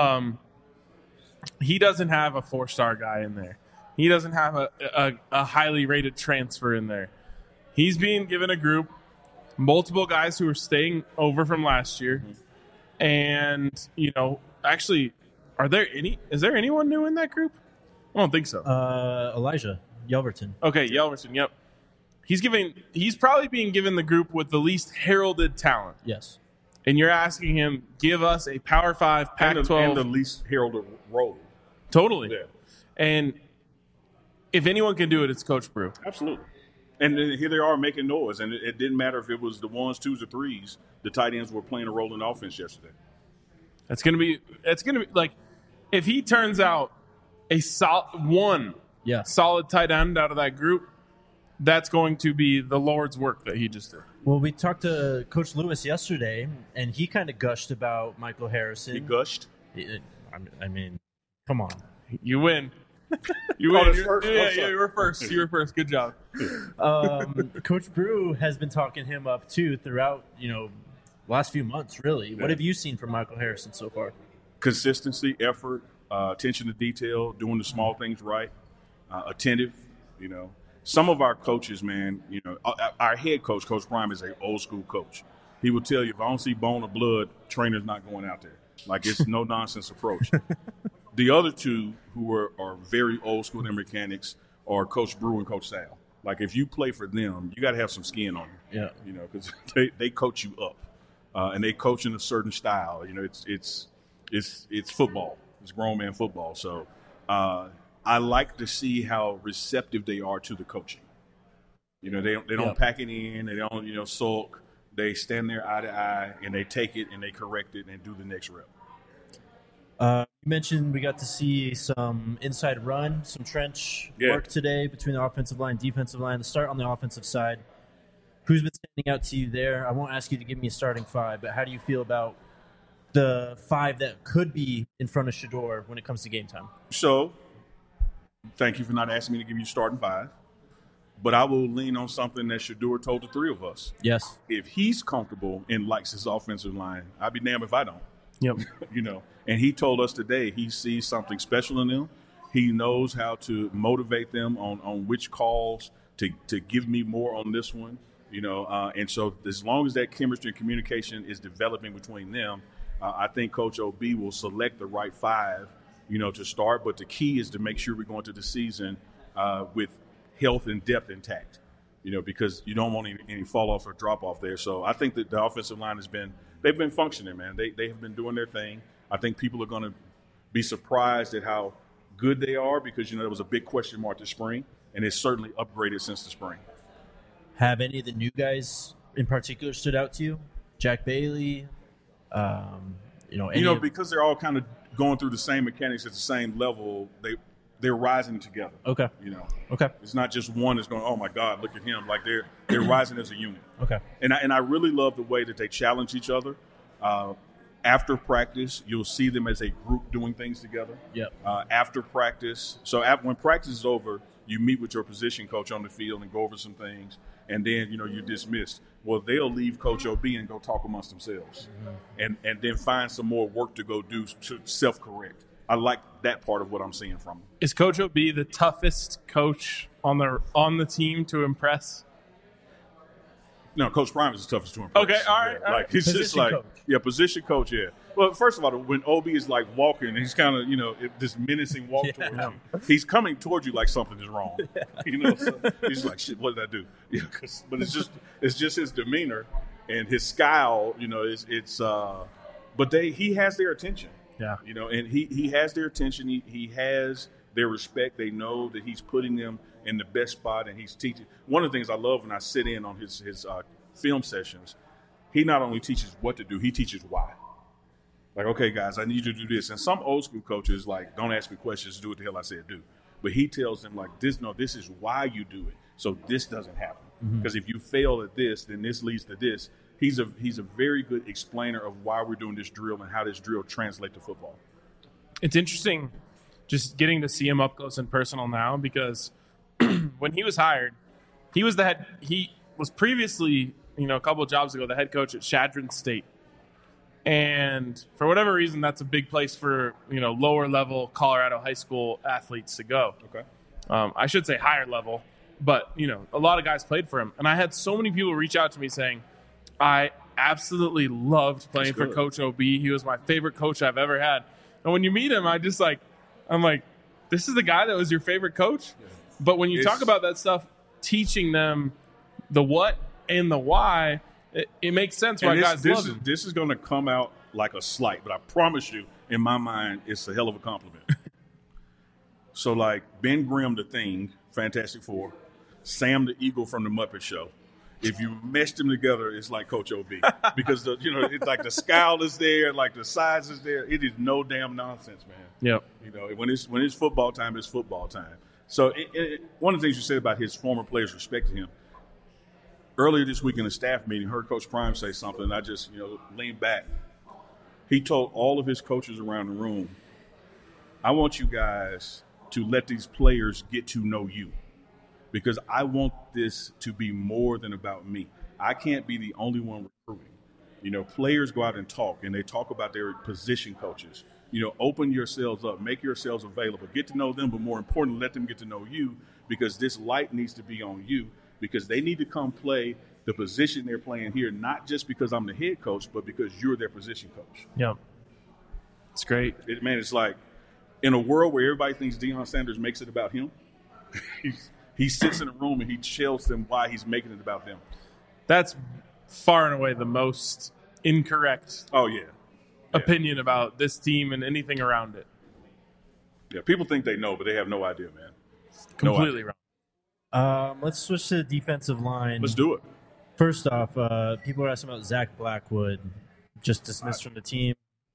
He doesn't have a 4-star guy in there. He doesn't have a highly rated transfer in there. He's being given a group, multiple guys who are staying over from last year. And, actually, is there anyone new in that group? I don't think so. Elijah Yelverton. Okay, Yelverton, yep. He's probably being given the group with the least heralded talent. Yes. And you're asking him, give us a Power 5, Pac-12. And the least heralded role. Totally. Yeah. And if anyone can do it, it's Coach Brew. Absolutely. And then here they are making noise. And it didn't matter if it was the 1s, 2s, or 3s. The tight ends were playing a role in the offense yesterday. It's gonna be like if he turns out a solid tight end out of that group, that's going to be the Lord's work that he just did. Well, we talked to Coach Lewis yesterday, and he kind of gushed about Michael Harrison. He gushed? I mean, come on. You win. You win. You were first. You were first. Good job. Coach Brew has been talking him up, too, throughout, last few months, really. What have you seen from Michael Harrison so far? Consistency, effort, attention to detail, doing the small things right, attentive, Some of our coaches, man, our head coach, Coach Prime, is an old-school coach. He will tell you, if I don't see bone or blood, trainer's not going out there. Like, it's no-nonsense approach. The other two who are very old-school in mechanics are Coach Brew and Coach Sal. Like, if you play for them, you got to have some skin on you. Yeah. Because they coach you up. And they coach in a certain style. It's football. It's grown man football. So I like to see how receptive they are to the coaching. They don't pack it in. They don't sulk. They stand there eye to eye and they take it and they correct it and do the next rep. You mentioned we got to see some inside run, some trench work today between the offensive line, defensive line. To start on the offensive side, who's been standing out to you there? I won't ask you to give me a starting 5, but how do you feel about the 5 that could be in front of Shedeur when it comes to game time? So, thank you for not asking me to give you starting 5. But I will lean on something that Shedeur told the 3 of us. Yes. If he's comfortable and likes his offensive line, I'd be damned if I don't. Yep. And he told us today he sees something special in them. He knows how to motivate them on which calls to give me more on this one. And so as long as that chemistry and communication is developing between them, I think Coach OB will select the right 5, to start. But the key is to make sure we're going to the season with health and depth intact, because you don't want any fall off or drop off there. So I think that the offensive line they've been functioning, man. They have been doing their thing. I think people are going to be surprised at how good they are because, there was a big question mark this spring, and it's certainly upgraded since the spring. Have any of the new guys in particular stood out to you? Jack Bailey, because they're all kind of going through the same mechanics at the same level, they're rising together. Okay. Okay. It's not just one that's going, oh my God, look at him. Like they're rising as a unit. Okay. And I really love the way that they challenge each other. After practice, you'll see them as a group doing things together. Yep. After practice, when practice is over, you meet with your position coach on the field and go over some things, and then you're dismissed. Well, they'll leave Coach OB and go talk amongst themselves, and then find some more work to go do to self-correct. I like that part of what I'm seeing from him. Is Coach OB the toughest coach on the team to impress? No, Coach Prime is the toughest to impress. Okay, all right. Like he's position just like coach. Position coach. Yeah, Well, first of all, when OB is like walking, he's kind of, this menacing walk towards you. He's coming towards you like something is wrong. So he's like, shit, what did I do? But it's just his demeanor and his scowl. But he has their attention. Yeah. And he has their attention. He has their respect. They know that he's putting them in the best spot, and he's teaching. One of the things I love when I sit in on his film sessions, he not only teaches what to do, he teaches why. Like, okay, guys, I need you to do this. And some old school coaches, like, don't ask me questions, do what the hell I said do. But he tells them, like, this is why you do it, so this doesn't happen. Because if you fail at this, then this leads to this. He's a very good explainer of why we're doing this drill and how this drill translates to football. It's interesting just getting to see him up close and personal now, because when he was hired, he was previously, a couple of jobs ago, the head coach at Chadron State. And for whatever reason, that's a big place for, lower level Colorado high school athletes to go. Okay. I should say higher level, but, a lot of guys played for him. And I had so many people reach out to me saying, I absolutely loved playing for Coach OB. He was my favorite coach I've ever had. And when you meet him, I'm like, this is the guy that was your favorite coach? Yeah. But when you talk about that stuff, teaching them the what and the why, it makes sense why guys love him. This is going to come out like a slight, but I promise you, in my mind, it's a hell of a compliment. So, like, Ben Grimm, the Thing, Fantastic Four, Sam the Eagle from the Muppet Show. If you mesh them together, it's like Coach OB. Because, it's like the scowl is there, like the size is there. It is no damn nonsense, man. Yep. When it's football time, it's football time. So one of the things you said about his former players respecting him, earlier this week in a staff meeting, heard Coach Prime say something, and I just, leaned back. He told all of his coaches around the room, I want you guys to let these players get to know you, because I want this to be more than about me. I can't be the only one recruiting. Players go out and talk, and they talk about their position coaches. Open yourselves up, make yourselves available, get to know them, but more importantly, let them get to know you, because this light needs to be on you, because they need to come play the position they're playing here, not just because I'm the head coach, but because you're their position coach. Yeah. It's great. It's like, in a world where everybody thinks Deion Sanders makes it about him, he sits in a room and he tells them why he's making it about them. That's far and away the most incorrect opinion about this team and anything around it. Yeah, people think they know, but they have no idea, man. Completely wrong. Let's switch to the defensive line. Let's do it. First off, people are asking about Zach Blackwood, just dismissed from the team.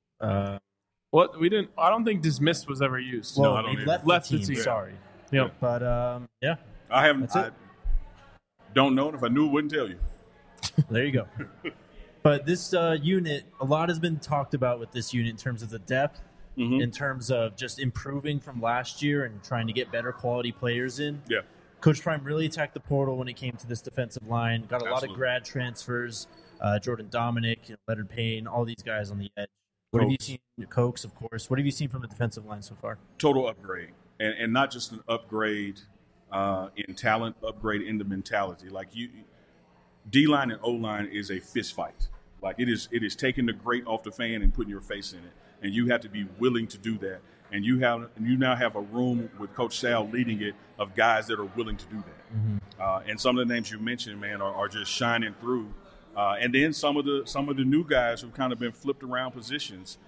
What we didn't? I don't think dismissed was ever used. Well, no, I don't left the team. Sorry. Yeah. But I haven't. I don't know, and if I knew, I wouldn't tell you. There you go. But this unit, a lot has been talked about with this unit in terms of the depth, in terms of just improving from last year and trying to get better quality players in. Yeah. Coach Prime really attacked the portal when it came to this defensive line. Got a lot of grad transfers. Jordan Dominic, Leonard Payne, all these guys on the edge. What have you seen? Cokes, of course. What have you seen from the defensive line so far? Total upgrade, and not just an upgrade in talent, upgrade in the mentality. Like D-line and O-line is a fist fight. Like it is taking the grate off the fan and putting your face in it, and you have to be willing to do that. And you now have a room with Coach Sal leading it of guys that are willing to do that. And some of the names you mentioned, man, are just shining through. And then some of the new guys who've kind of been flipped around positions.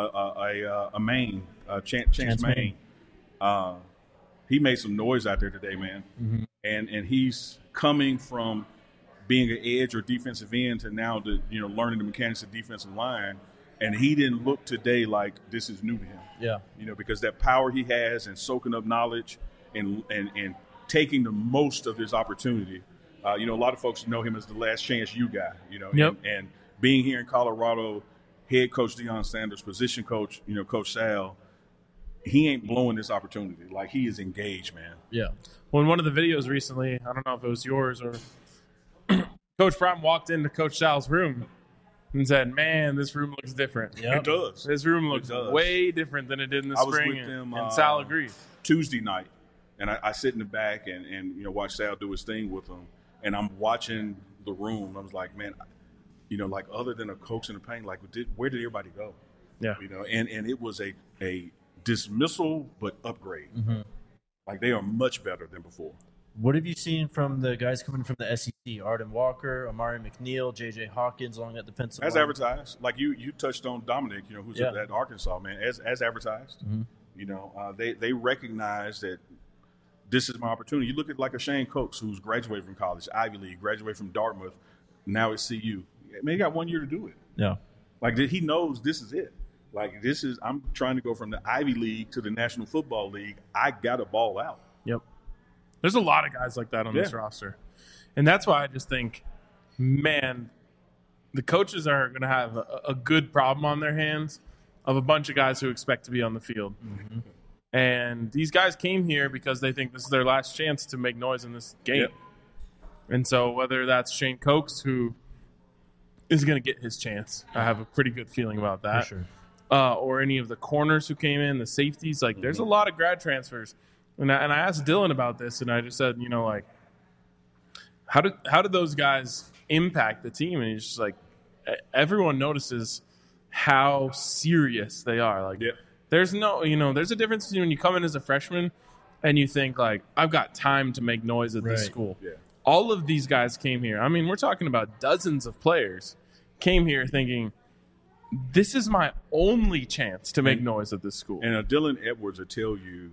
Chance Maine. He made some noise out there today, man. And he's coming from being an edge or defensive end to now learning the mechanics of defensive line. And he didn't look today like this is new to him. Yeah. Because that power he has and soaking up knowledge and taking the most of his opportunity. A lot of folks know him as the last chance you guy, Yep. And being here in Colorado, head coach Deion Sanders, position coach, Coach Sal, he ain't blowing this opportunity. Like, he is engaged, man. Yeah. Well, in one of the videos recently, I don't know if it was yours or Coach Prime walked into Coach Sal's room and said, man, this room looks different. Yep. It does. This room looks way different than it did in the spring. Was with them, and Sal agreed. Tuesday night, and I sit in the back and watch Sal do his thing with them. And I'm watching the room. I was like, man, like other than a Cokes and a Payne, like where did everybody go? Yeah. And it was a dismissal but upgrade. Mm-hmm. Like they are much better than before. What have you seen from the guys coming from the SEC? Arden Walker, Amari McNeil, J.J. Hawkins along that defensive As line? advertised. Like you touched on Dominic, who's at Arkansas, man, as advertised. Mm-hmm. They recognize that this is my opportunity. You look at like a Shane Coates who's graduated from college, Ivy League, graduated from Dartmouth, now at CU. Man, he got 1 year to do it. Yeah. Like he knows this is it. Like I'm trying to go from the Ivy League to the National Football League. I got to ball out. Yep. There's a lot of guys like that on this roster. And that's why I just think, man, the coaches are going to have a good problem on their hands of a bunch of guys who expect to be on the field. Mm-hmm. And these guys came here because they think this is their last chance to make noise in this game. Yep. And so whether that's Shane Coates, who is going to get his chance, I have a pretty good feeling about that. For sure. Or any of the corners who came in, the safeties. Like, there's a lot of grad transfers. And I asked Dylan about this, and I just said, how did those guys impact the team? And he's just like, everyone notices how serious they are. Like, there's a difference between when you come in as a freshman and you think, like, I've got time to make noise at this school. Yeah. All of these guys came here. I mean, we're talking about dozens of players came here thinking, this is my only chance to make noise at this school. And Dylan Edwards will tell you,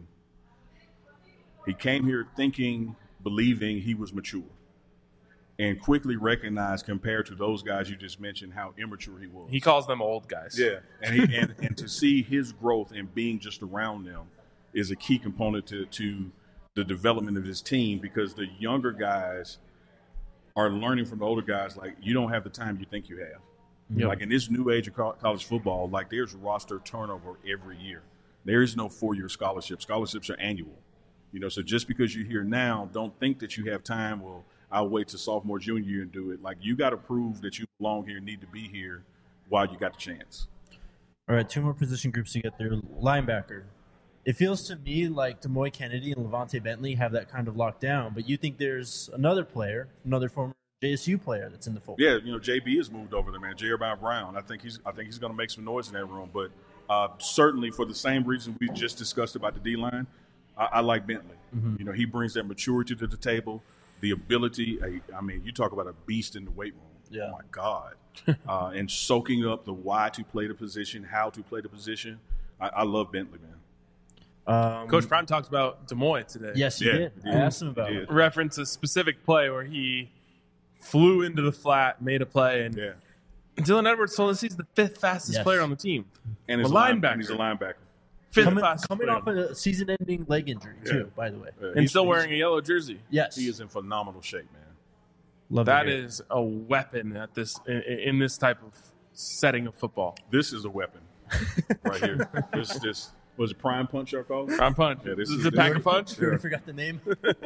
he came here believing he was mature, and quickly recognized, compared to those guys you just mentioned, how immature he was. He calls them old guys. Yeah, and to see his growth and being just around them is a key component to the development of his team, because the younger guys are learning from the older guys. Like, you don't have the time you think you have. Yep. Like in this new age of college football, like there's roster turnover every year. There is no 4-year scholarship. Scholarships are annual. So just because you're here now, don't think that you have time. Well, I'll wait to sophomore, junior year and do it. Like, you got to prove that you belong here, need to be here while you got the chance. All right, 2 more position groups to get there. Linebacker. It feels to me like Demoy Kennedy and Levante Bentley have that kind of locked down, but you think there's another player, another former JSU player that's in the fold? Yeah, JB has moved over there, man. Jeremiah Brown. I think he's going to make some noise in that room. But certainly for the same reason we just discussed about the D-line, I like Bentley. Mm-hmm. He brings that maturity to the table, the ability. I mean, you talk about a beast in the weight room. Yeah. Oh, my God. And soaking up the why to play the position, how to play the position. I love Bentley, man. Coach Prime talked about Demoy today. Yes, he did. I asked him about it. Reference a specific play where he flew into the flat, made a play, and Dylan Edwards told us he's the 5th fastest player on the team. And he's a linebacker. He's a linebacker. Coming off a season-ending leg injury, too, by the way. And still wearing a yellow jersey. Yes. He is in phenomenal shape, man. Love that is a weapon at in this type of setting of football. This is a weapon right here. This was it Prime Punch y'all call it? Prime Punch. Yeah, this is a pack of punch. I forgot the name.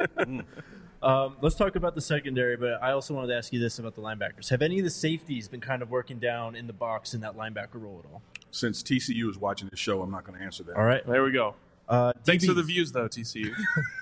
Let's talk about the secondary, but I also wanted to ask you this about the linebackers. Have any of the safeties been kind of working down in the box in that linebacker role at all? Since TCU is watching this show, I'm not going to answer that. All right. There we go. Thanks for the views, though, TCU.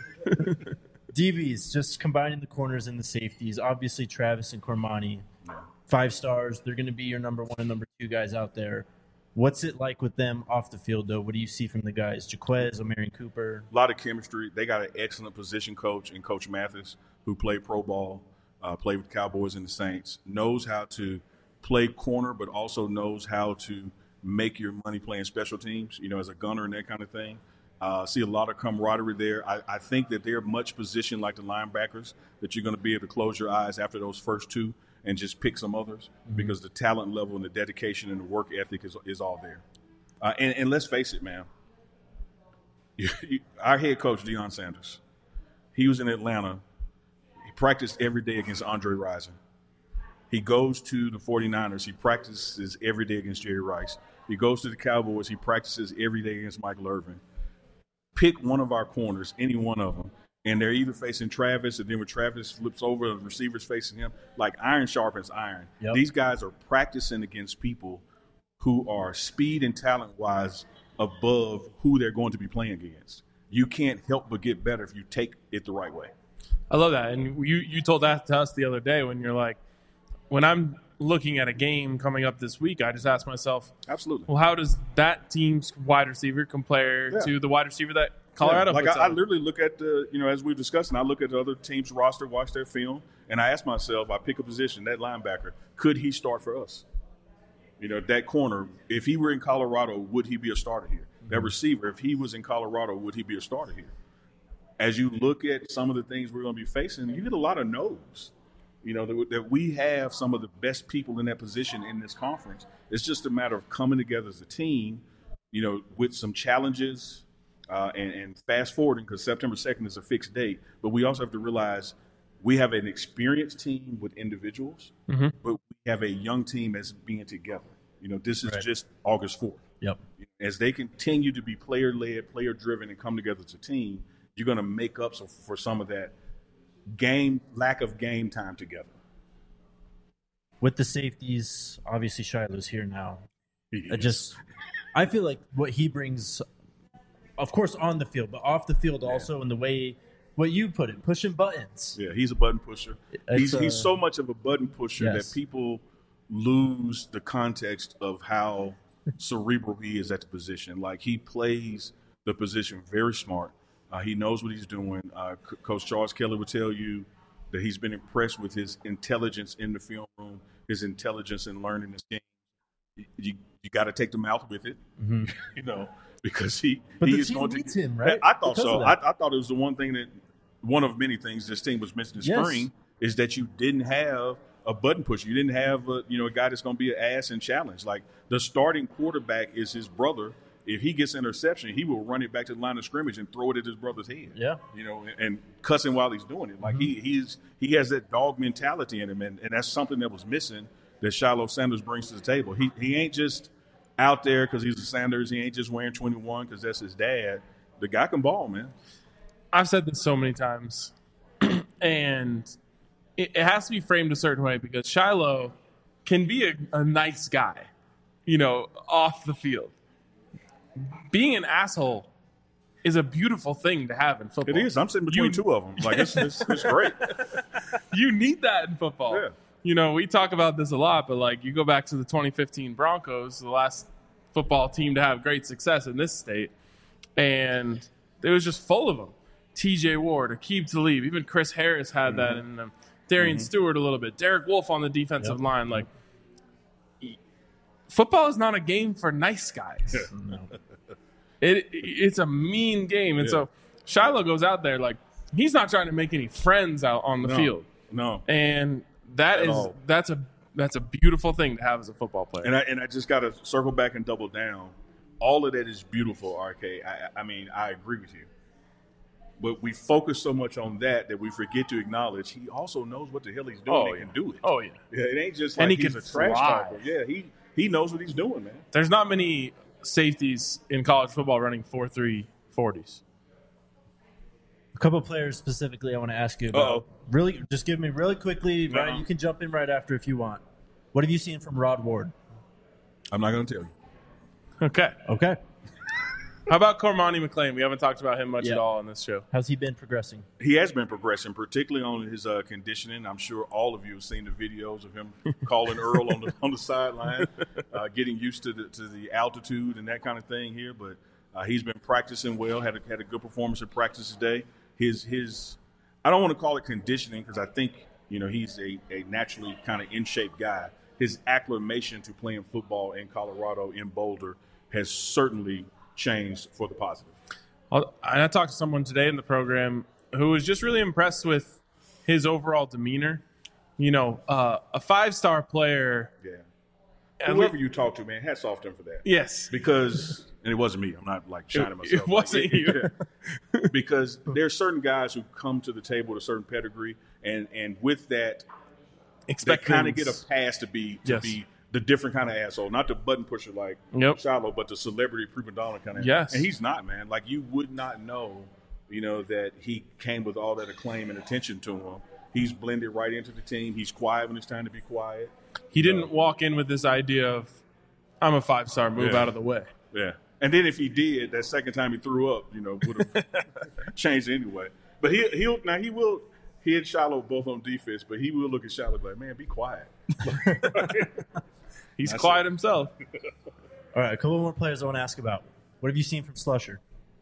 DBs, just combining the corners and the safeties. Obviously, Travis and Cormani, 5 stars. They're going to be your number 1 and number 2 guys out there. What's it like with them off the field, though? What do you see from the guys? Jaquez, O'Marion Cooper? A lot of chemistry. They got an excellent position coach in Coach Mathis, who played pro ball, played with the Cowboys and the Saints, knows how to play corner, but also knows how to make your money playing special teams, as a gunner and that kind of thing. See a lot of camaraderie there. I think that they're much positioned like the linebackers, that you're going to be able to close your eyes after those first 2 and just pick some others, because the talent level and the dedication and the work ethic is all there. And let's face it, man. Our head coach, Deion Sanders, he was in Atlanta. He practiced every day against Andre Rison. He goes to the 49ers. He practices every day against Jerry Rice. He goes to the Cowboys. He practices every day against Michael Irvin. Pick one of our corners, any one of them, and they're either facing Travis, and then when Travis flips over, the receiver's facing him. Like iron sharpens iron. Yep. These guys are practicing against people who are speed and talent-wise above who they're going to be playing against. You can't help but get better if you take it the right way. I love that. And you told that to us the other day when you're like, when I'm looking at a game coming up this week, I just ask myself, Absolutely. well, how does that team's wide receiver compare to the wide receiver that Colorado Like puts I out? literally look at as we've discussed, and I look at the other team's roster, watch their film, and I ask myself, I pick a position, that linebacker, could he start for us? That corner, if he were in Colorado, would he be a starter here? That receiver, if he was in Colorado, would he be a starter here? As you look at some of the things we're going to be facing, you get a lot of no's. That we have some of the best people in that position in this conference. It's just a matter of coming together as a team, with some challenges and fast forwarding, because September 2nd is a fixed date. But we also have to realize we have an experienced team with individuals, but we have a young team as being together. This is just August 4th. Yep. As they continue to be player-led, player-driven, and come together as a team, you're going to make up for some of that lack of game time together. With the safeties, obviously Shiloh's here now. Yes. I feel like what he brings, of course, on the field, but off the field also, in the way what you put it, pushing buttons. Yeah, he's a button pusher. He's so much of a button pusher that people lose the context of how cerebral he is at the position. Like, he plays the position very smart. He knows what he's doing. Coach Charles Kelly would tell you that he's been impressed with his intelligence in the film room, his intelligence in learning this game. You got to take the mouth with it, because he is going to needs him, right? I thought so. I thought it was the one of many things this team was missing in spring is that you didn't have a button pusher. You didn't have a guy that's going to be an ass and challenge. Like, the starting quarterback is his brother. If he gets interception, he will run it back to the line of scrimmage and throw it at his brother's head. Yeah, and cuss him while he's doing it. Like, he has that dog mentality in him, and that's something that was missing that Shiloh Sanders brings to the table. He ain't just out there because he's a Sanders. He ain't just wearing 21 because that's his dad. The guy can ball, man. I've said this so many times, and it has to be framed a certain way, because Shiloh can be a nice guy, off the field. Being an asshole is a beautiful thing to have in football. It is. I'm sitting between two of them. Like, it's great. You need that in football. Yeah. We talk about this a lot, but like, you go back to the 2015 Broncos, the last football team to have great success in this state, and it was just full of them. TJ Ward, Aqib Talib, even Chris Harris had that in them. Darian Stewart a little bit. Derek Wolfe on the defensive line. Like, football is not a game for nice guys. No. It's a mean game. And so Shiloh goes out there, like, he's not trying to make any friends out on the field. No. And that's a beautiful thing to have as a football player. And I just got to circle back and double down. All of that is beautiful, RK. I mean, I agree with you. But we focus so much on that we forget to acknowledge he also knows what the hell he's doing and can do it. Oh, yeah. It ain't just like he's a trash talker. Yeah, he knows what he's doing, man. There's not many safeties in college football running 4.3 40s. A couple of players specifically I want to ask you about. Really, just give me really quickly. Ryan, you can jump in right after if you want. What have you seen from Rod Ward? I'm not going to tell you. Okay. How about Cormani McClain? We haven't talked about him much at all on this show. How's he been progressing? He has been progressing, particularly on his conditioning. I'm sure all of you have seen the videos of him calling Earl on the sideline, getting used to the altitude and that kind of thing here. But he's been practicing well. Had a good performance in practice today. His I don't want to call it conditioning because I think he's a naturally kind of in shape guy. His acclimation to playing football in Colorado, in Boulder, has certainly changed for the positive. I talked to someone today in the program who was just really impressed with his overall demeanor. A 5-star player. Yeah. Whoever you talk to, man, hats off to him for that. Yes. Because, and it wasn't me. I'm not like shining myself. It wasn't you. Because there's certain guys who come to the table with a certain pedigree, and with that, they kind of get a pass to be the different kind of asshole, not the button pusher like Shiloh, but the celebrity prima donna kind of. Yes, and he's not, man. Like, you would not know, that he came with all that acclaim and attention to him. He's blended right into the team. He's quiet when it's time to be quiet. He didn't walk in with this idea of, I'm a 5-star, move out of the way. Yeah, and then if he did, that second time he threw up, would have changed anyway. But he will. He and Shiloh both on defense, but he will look at Shiloh like, man, be quiet. He's quiet himself. All right, a couple more players I want to ask about. What have you seen from Slusher?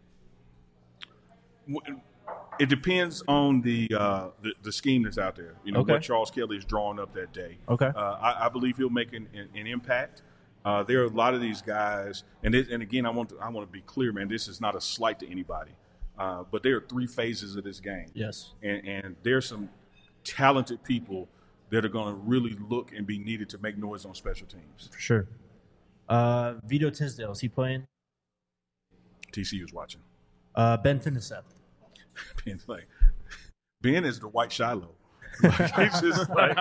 It depends on the scheme that's out there. You know, Okay. what Charles Kelly is drawing up that day. Okay. I believe he'll make an impact. There are a lot of these guys, and again, I want to be clear, man. This is not a slight to anybody, but there are 3 phases of this game. Yes. And there's some talented people that are going to really look and be needed to make noise on special teams. For sure. Vito Tisdale, is he playing? TCU is watching. Ben Finnesseth. Ben is the white Shiloh. Like, he's just like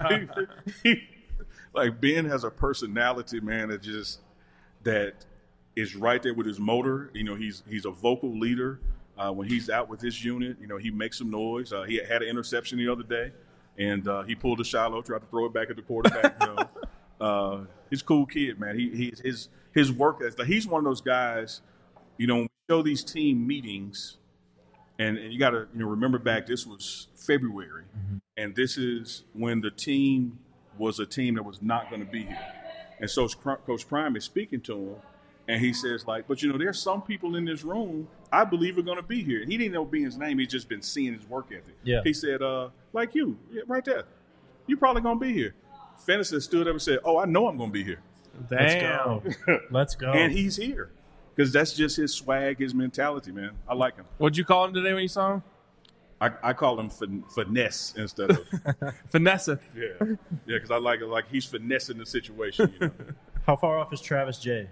like Ben has a personality, man, that is right there with his motor. You know, he's a vocal leader. When he's out with his unit, you know, he makes some noise. He had an interception the other day, and he pulled a Shiloh, tried to throw it back at the quarterback. You know, he's a cool kid, man. His work ethic. He's one of those guys. You know, when we show these team meetings, and you got to remember back. This was February, and this is when the team was a team that was not going to be here. And so Coach Prime is speaking to him, and he says, like, but there's some people in this room I believe are going to be here. And he didn't know Ben's name. He's just been seeing his work ethic. Yeah. He said, like you, right there, you probably going to be here. Fennessy stood up and said, oh, I know I'm going to be here. Damn. Let's go. And he's here because that's just his swag, his mentality, man. I like him. What'd you call him today when you saw him? I call him finesse instead of Finesse. yeah, because I like it. Like he's finessing the situation. You know? How far off is Travis J?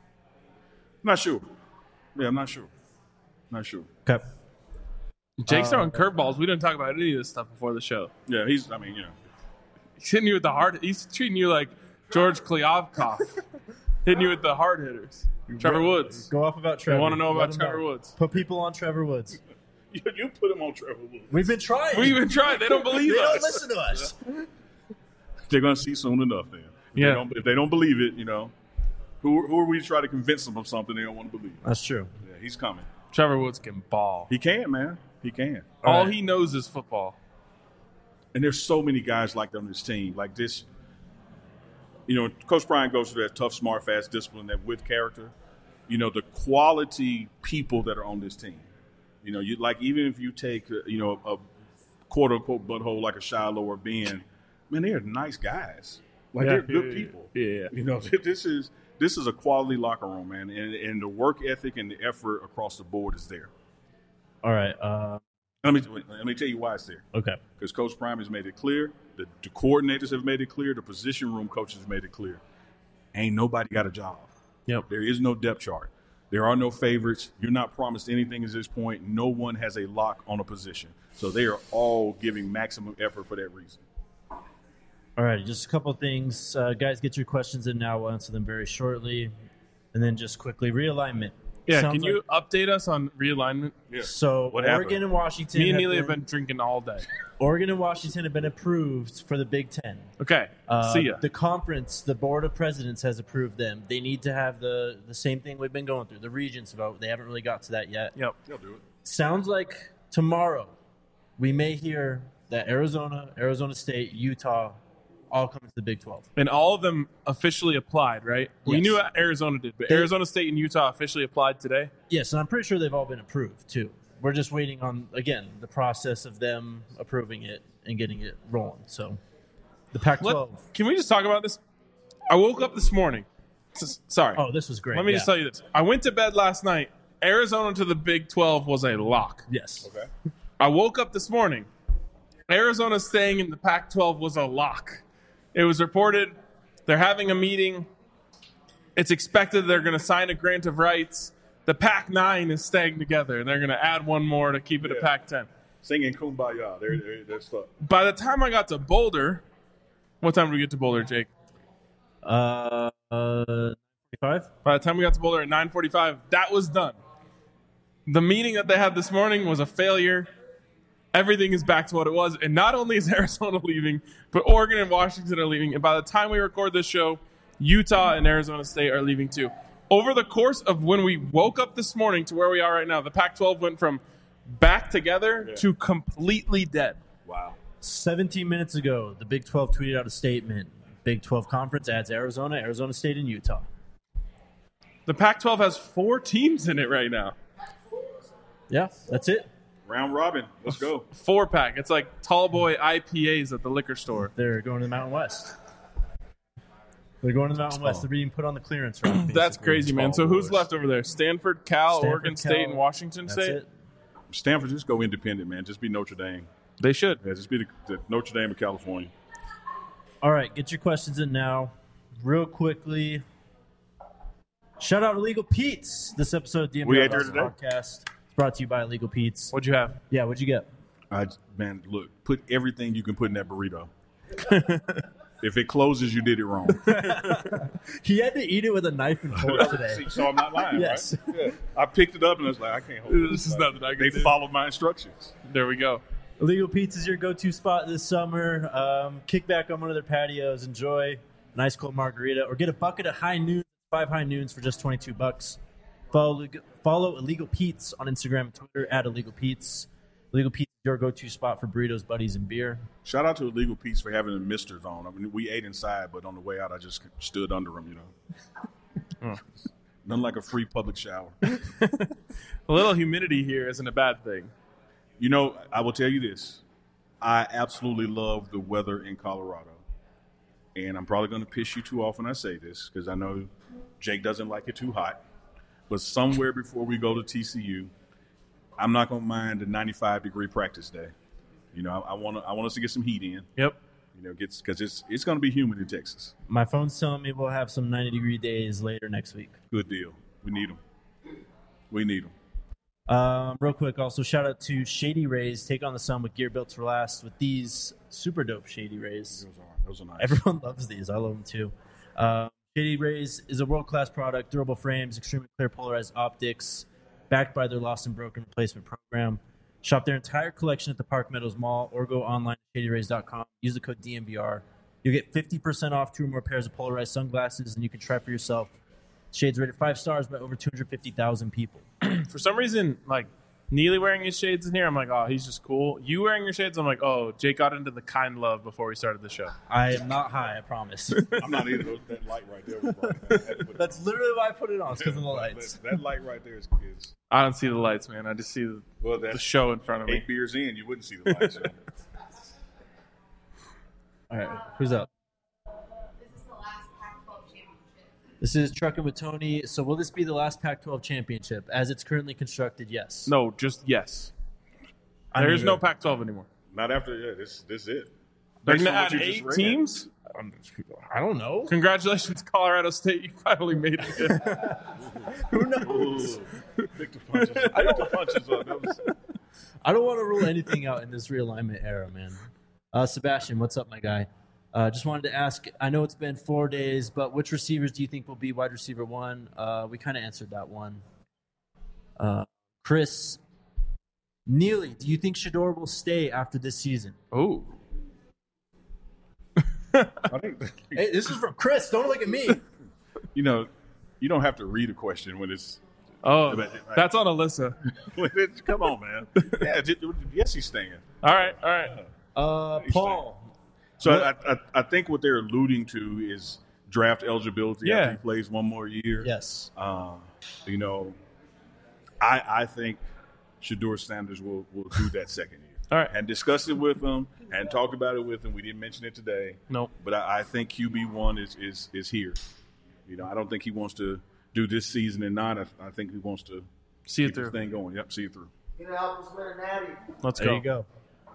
Not sure. Yeah, I'm not sure. Not sure. Okay. Jake's throwing curveballs. We didn't talk about any of this stuff before the show. Yeah, he's He's hitting you with the hard. He's treating you like George Kliavkoff. Hitting you with the hard hitters. Trevor Woods. Go off about Trevor. I want to know Let about him Trevor Woods. Put people on Trevor Woods. You put him on Trevor Woods. We've been trying. We've been trying. They don't believe They us. don't listen to us. They're gonna see soon enough. Then, if they don't believe it, who are we to try to convince them of something they don't want to believe? That's true. Yeah, he's coming. Trevor Woods can ball. He can, man. He can. All he knows is football. And there's so many guys like that on this team. Like this, Coach Brian goes through that tough, smart, fast discipline, that with character. The quality people that are on this team. Even if you take, a quote-unquote butthole like a Shiloh or Ben, man, they're nice guys. Like, they're good people. Yeah. This is a quality locker room, man. And the work ethic and the effort across the board is there. All right. Let me tell you why it's there. Okay. Because Coach Prime has made it clear. The coordinators have made it clear. The position room coaches have made it clear. Ain't nobody got a job. Yep. There is no depth chart. There are no favorites. You're not promised anything at this point. No one has a lock on a position. So they are all giving maximum effort for that reason. All right. Just a couple of things. Guys, get your questions in now. We'll answer them very shortly. And then just quickly, realignment. Yeah, Sounds can you update us on realignment? Yeah. So What Oregon happened? and Washington. Me and Neely have been drinking all day. Oregon and Washington have been approved for the Big Ten. Okay, see ya. The conference, the board of presidents has approved them. They need to have the same thing we've been going through, the regents vote. They haven't really got to that yet. Yep. They'll do it. Sounds like tomorrow we may hear that Arizona, Arizona State, Utah all come into the Big 12. And all of them officially applied, right? We Yes. knew Arizona did, but Arizona State and Utah officially applied today. Yes, and I'm pretty sure they've all been approved too. We're just waiting on, again, the process of them approving it and getting it rolling. So the Pac-12. Can we just talk about this? I woke up this morning. Sorry. Oh, this was great. Let me Yeah. just tell you this. I went to bed last night. Arizona to the Big 12 was a lock. Yes. Okay. I woke up this morning. Arizona staying in the Pac-12 was a lock. It was reported they're having a meeting. It's expected they're going to sign a grant of rights. The Pac-9 is staying together, and they're going to add one more to keep it a Yeah. Pac-10. Singing Kumbaya. They're stuck. By the time I got to Boulder, what time did we get to Boulder, Jake? 45? By the time we got to Boulder at 9:45, that was done. The meeting that they had this morning was a failure. Everything is back to what it was. And not only is Arizona leaving, but Oregon and Washington are leaving. And by the time we record this show, Utah and Arizona State are leaving too. Over the course of when we woke up this morning to where we are right now, the Pac-12 went from back together to completely dead. 17 minutes ago, the Big 12 tweeted out a statement. Big 12 Conference adds Arizona, Arizona State, and Utah. The Pac-12 has 4 teams in it right now. Yeah, that's it. Round robin. Let's go. 4-pack. It's like tall boy IPAs at the liquor store. They're going to the Mountain West. They're going to the Mountain West. They're being put on the clearance route. That's crazy, man. So who's boys. left over there? Stanford, Cal, Stanford, Oregon Cal. State, and Washington That's State? it. Stanford, just go independent, man. Just be Notre Dame. They should. Yeah, just be the Notre Dame of California. All right, get your questions in now. Real quickly. Shout out to Illegal Pete's. This episode of the We NBA ate there today? Podcast is brought to you by Illegal Pete's. What'd you have? Yeah, what'd you get? Man, look, put everything you can put in that burrito. If it closes, you did it wrong. He had to eat it with a knife and fork today. See, so I'm not lying, Yes. right? Yeah. I picked it up and I was like, I can't hold it. This is nothing I can They do. followed my instructions. There we go. Illegal Pete's is your go-to spot this summer. Kick back on one of their patios, enjoy an ice cold margarita, or get a bucket of high noon, 5 high noons for just $22. Follow Illegal Pete's on Instagram and Twitter at Illegal Pete's. Illegal Pete's is your go-to spot for burritos, buddies, and beer. Shout out to Illegal Pete's for having a Misters on. I mean, we ate inside, but on the way out, I just stood under them, Nothing like a free public shower. A little humidity here isn't a bad thing. I will tell you this. I absolutely love the weather in Colorado. And I'm probably going to piss you too off when I say this because I know Jake doesn't like it too hot. But somewhere before we go to TCU, I'm not going to mind a 95-degree practice day. I want us to get some heat in. Yep. Because it's going to be humid in Texas. My phone's telling me we'll have some 90-degree days later next week. Good deal. We need them. Real quick, also shout out to Shady Rays. Take on the sun with gear built to last with these super dope Shady Rays. Those are nice. Everyone loves these. I love them too. Shady Rays is a world-class product, durable frames, extremely clear polarized optics, backed by their lost and broken replacement program. Shop their entire collection at the Park Meadows Mall or go online at shadyrays.com. Use the code DNVR. You'll get 50% off 2 or more pairs of polarized sunglasses, and you can try for yourself. Shades rated 5 stars by over 250,000 people. For some reason, like, Neely wearing his shades in here, I'm like, oh, he's just cool. You wearing your shades, I'm like, oh, Jake got into the kind love before we started the show. I am not high, I promise. I'm not either. That light right there was wrong. I had to put it That's literally why I put it on. It's because of the lights. That light right there is I don't see the lights, man. I just see the show in front of me. 8 beers in, you wouldn't see the lights. All right, who's up? This is the last Pac-12 championship. This is Truckin' with Tony. So will this be the last Pac-12 championship? As it's currently constructed, yes. No, just yes. I There's mean, no Pac-12 anymore. Not after, this is it. They're Based going to on add what you just 8 read. teams? I don't know. Congratulations, Colorado State. You finally made it. Who knows? Pick the punches. Pick the punches on those. I don't want to rule anything out in this realignment era, man. Sebastian, what's up, my guy? Just wanted to ask, I know it's been 4 days, but which receivers do you think will be wide receiver 1? We kind of answered that one. Chris, Neely, do you think Shador will stay after this season? Oh. I think, Hey, this is from Chris. Don't look at me. you don't have to read a question when it's. Oh, that's on Alyssa. Come on, man. Yeah, yes, he's staying. All right. Paul. So I think what they're alluding to is draft eligibility after he plays one more year. Yes. I think Shador Sanders will do that second year. All right. And discussed it with him and talked about it with him. We didn't mention it today. Nope. But I think QB1 is here. I don't think he wants to do this season and not. I think he wants to See it keep through. this thing going. Yep, see it through. He's going to help us win a natty. Let's There you go.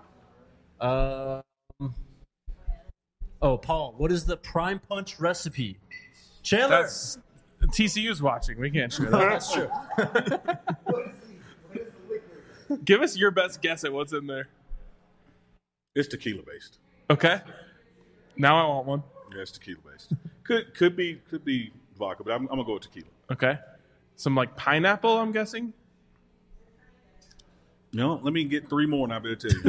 Paul, what is the prime punch recipe? Chandler. That's TCU's watching. We can't share that. That's true. What is the liquor? Give us your best guess at what's in there. It's tequila based. Okay. Now I want one. Yeah, it's tequila based. could be vodka, but I'm gonna go with tequila. Okay. Some like pineapple, I'm guessing. Let me get 3 more and I'll be able to tell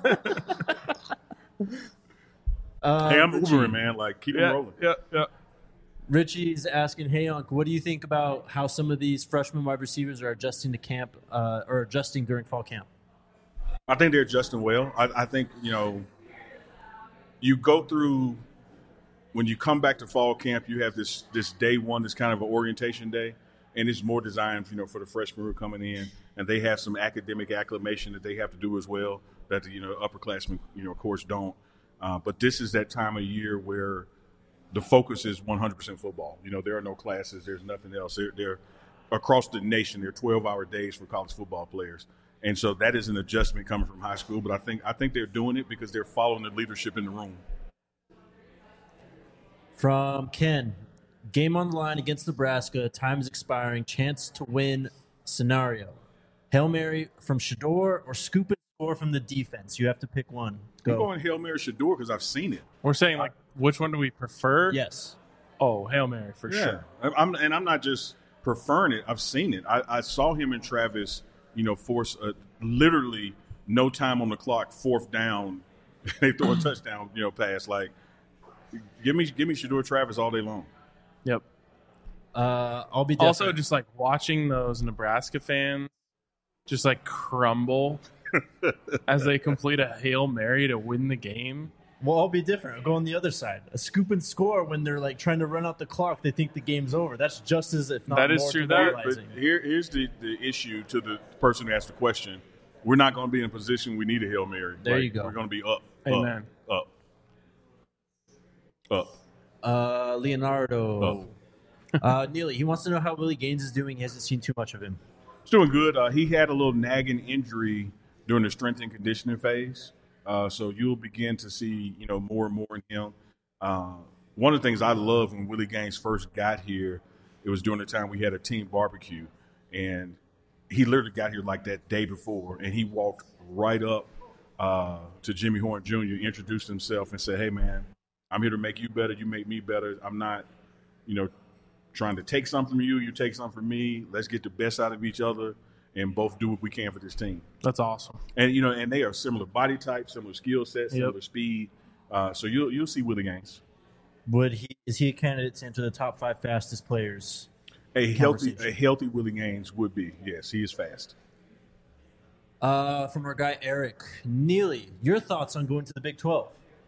you. Hey, I'm Richie. Ubering, man. Like, keep it rolling. Yeah. Richie's asking, hey, Unc, what do you think about how some of these freshman wide receivers are adjusting to camp or adjusting during fall camp? I think they're adjusting well. I think, you go through when you come back to fall camp, you have this day one, this kind of an orientation day, and it's more designed, for the freshmen who are coming in, and they have some academic acclimation that they have to do as well that the upperclassmen, of course, don't. But this is that time of year where the focus is 100% football. There are no classes, there's nothing else. They're across the nation. They're 12-hour days for college football players, and so that is an adjustment coming from high school. But I think they're doing it because they're following the leadership in the room. From Ken, game on the line against Nebraska, time is expiring, chance to win scenario. Hail Mary from Shedeur or scoop and score from the defense? You have to pick one. I'm Go. going Hail Mary Shedeur because I've seen it. We're saying, which one do we prefer? Yes. Oh, Hail Mary, for sure. I'm not just preferring it. I've seen it. I saw him and Travis, force literally no time on the clock, fourth down. They throw a touchdown, pass. Give me Shedeur Travis all day long. Yep. I'll be also just watching those Nebraska fans just crumble as they complete a Hail Mary to win the game. Well, I'll be different. I'll go on the other side. A scoop and score when they're trying to run out the clock. They think the game's over. That's just as, if not that more, is true. But here's the issue to the person who asked the question. We're not going to be in a position we need a Hail Mary. There you go. We're going to be up. Amen. Up. Leonardo. Neely, he wants to know how Willie Gaines is doing. He hasn't seen too much of him. He's doing good. He had a little nagging injury during the strength and conditioning phase. So you'll begin to see, more and more in him. One of the things I loved when Willie Gaines first got here, it was during the time we had a team barbecue. And he literally got here that day before. And he walked right up to Jimmy Horn Jr., introduced himself and said, "Hey, man, I'm here to make you better. You make me better. I'm not, trying to take something from you. You take something from me. Let's get the best out of each other and both do what we can for this team." That's awesome. And, and they are similar body types, similar skill sets, similar speed. So you'll see Willie Gaines. Is he a candidate to enter the top 5 fastest players? A healthy Willie Gaines would be. Yes, he is fast. From our guy Eric Neely, your thoughts on going to the Big 12?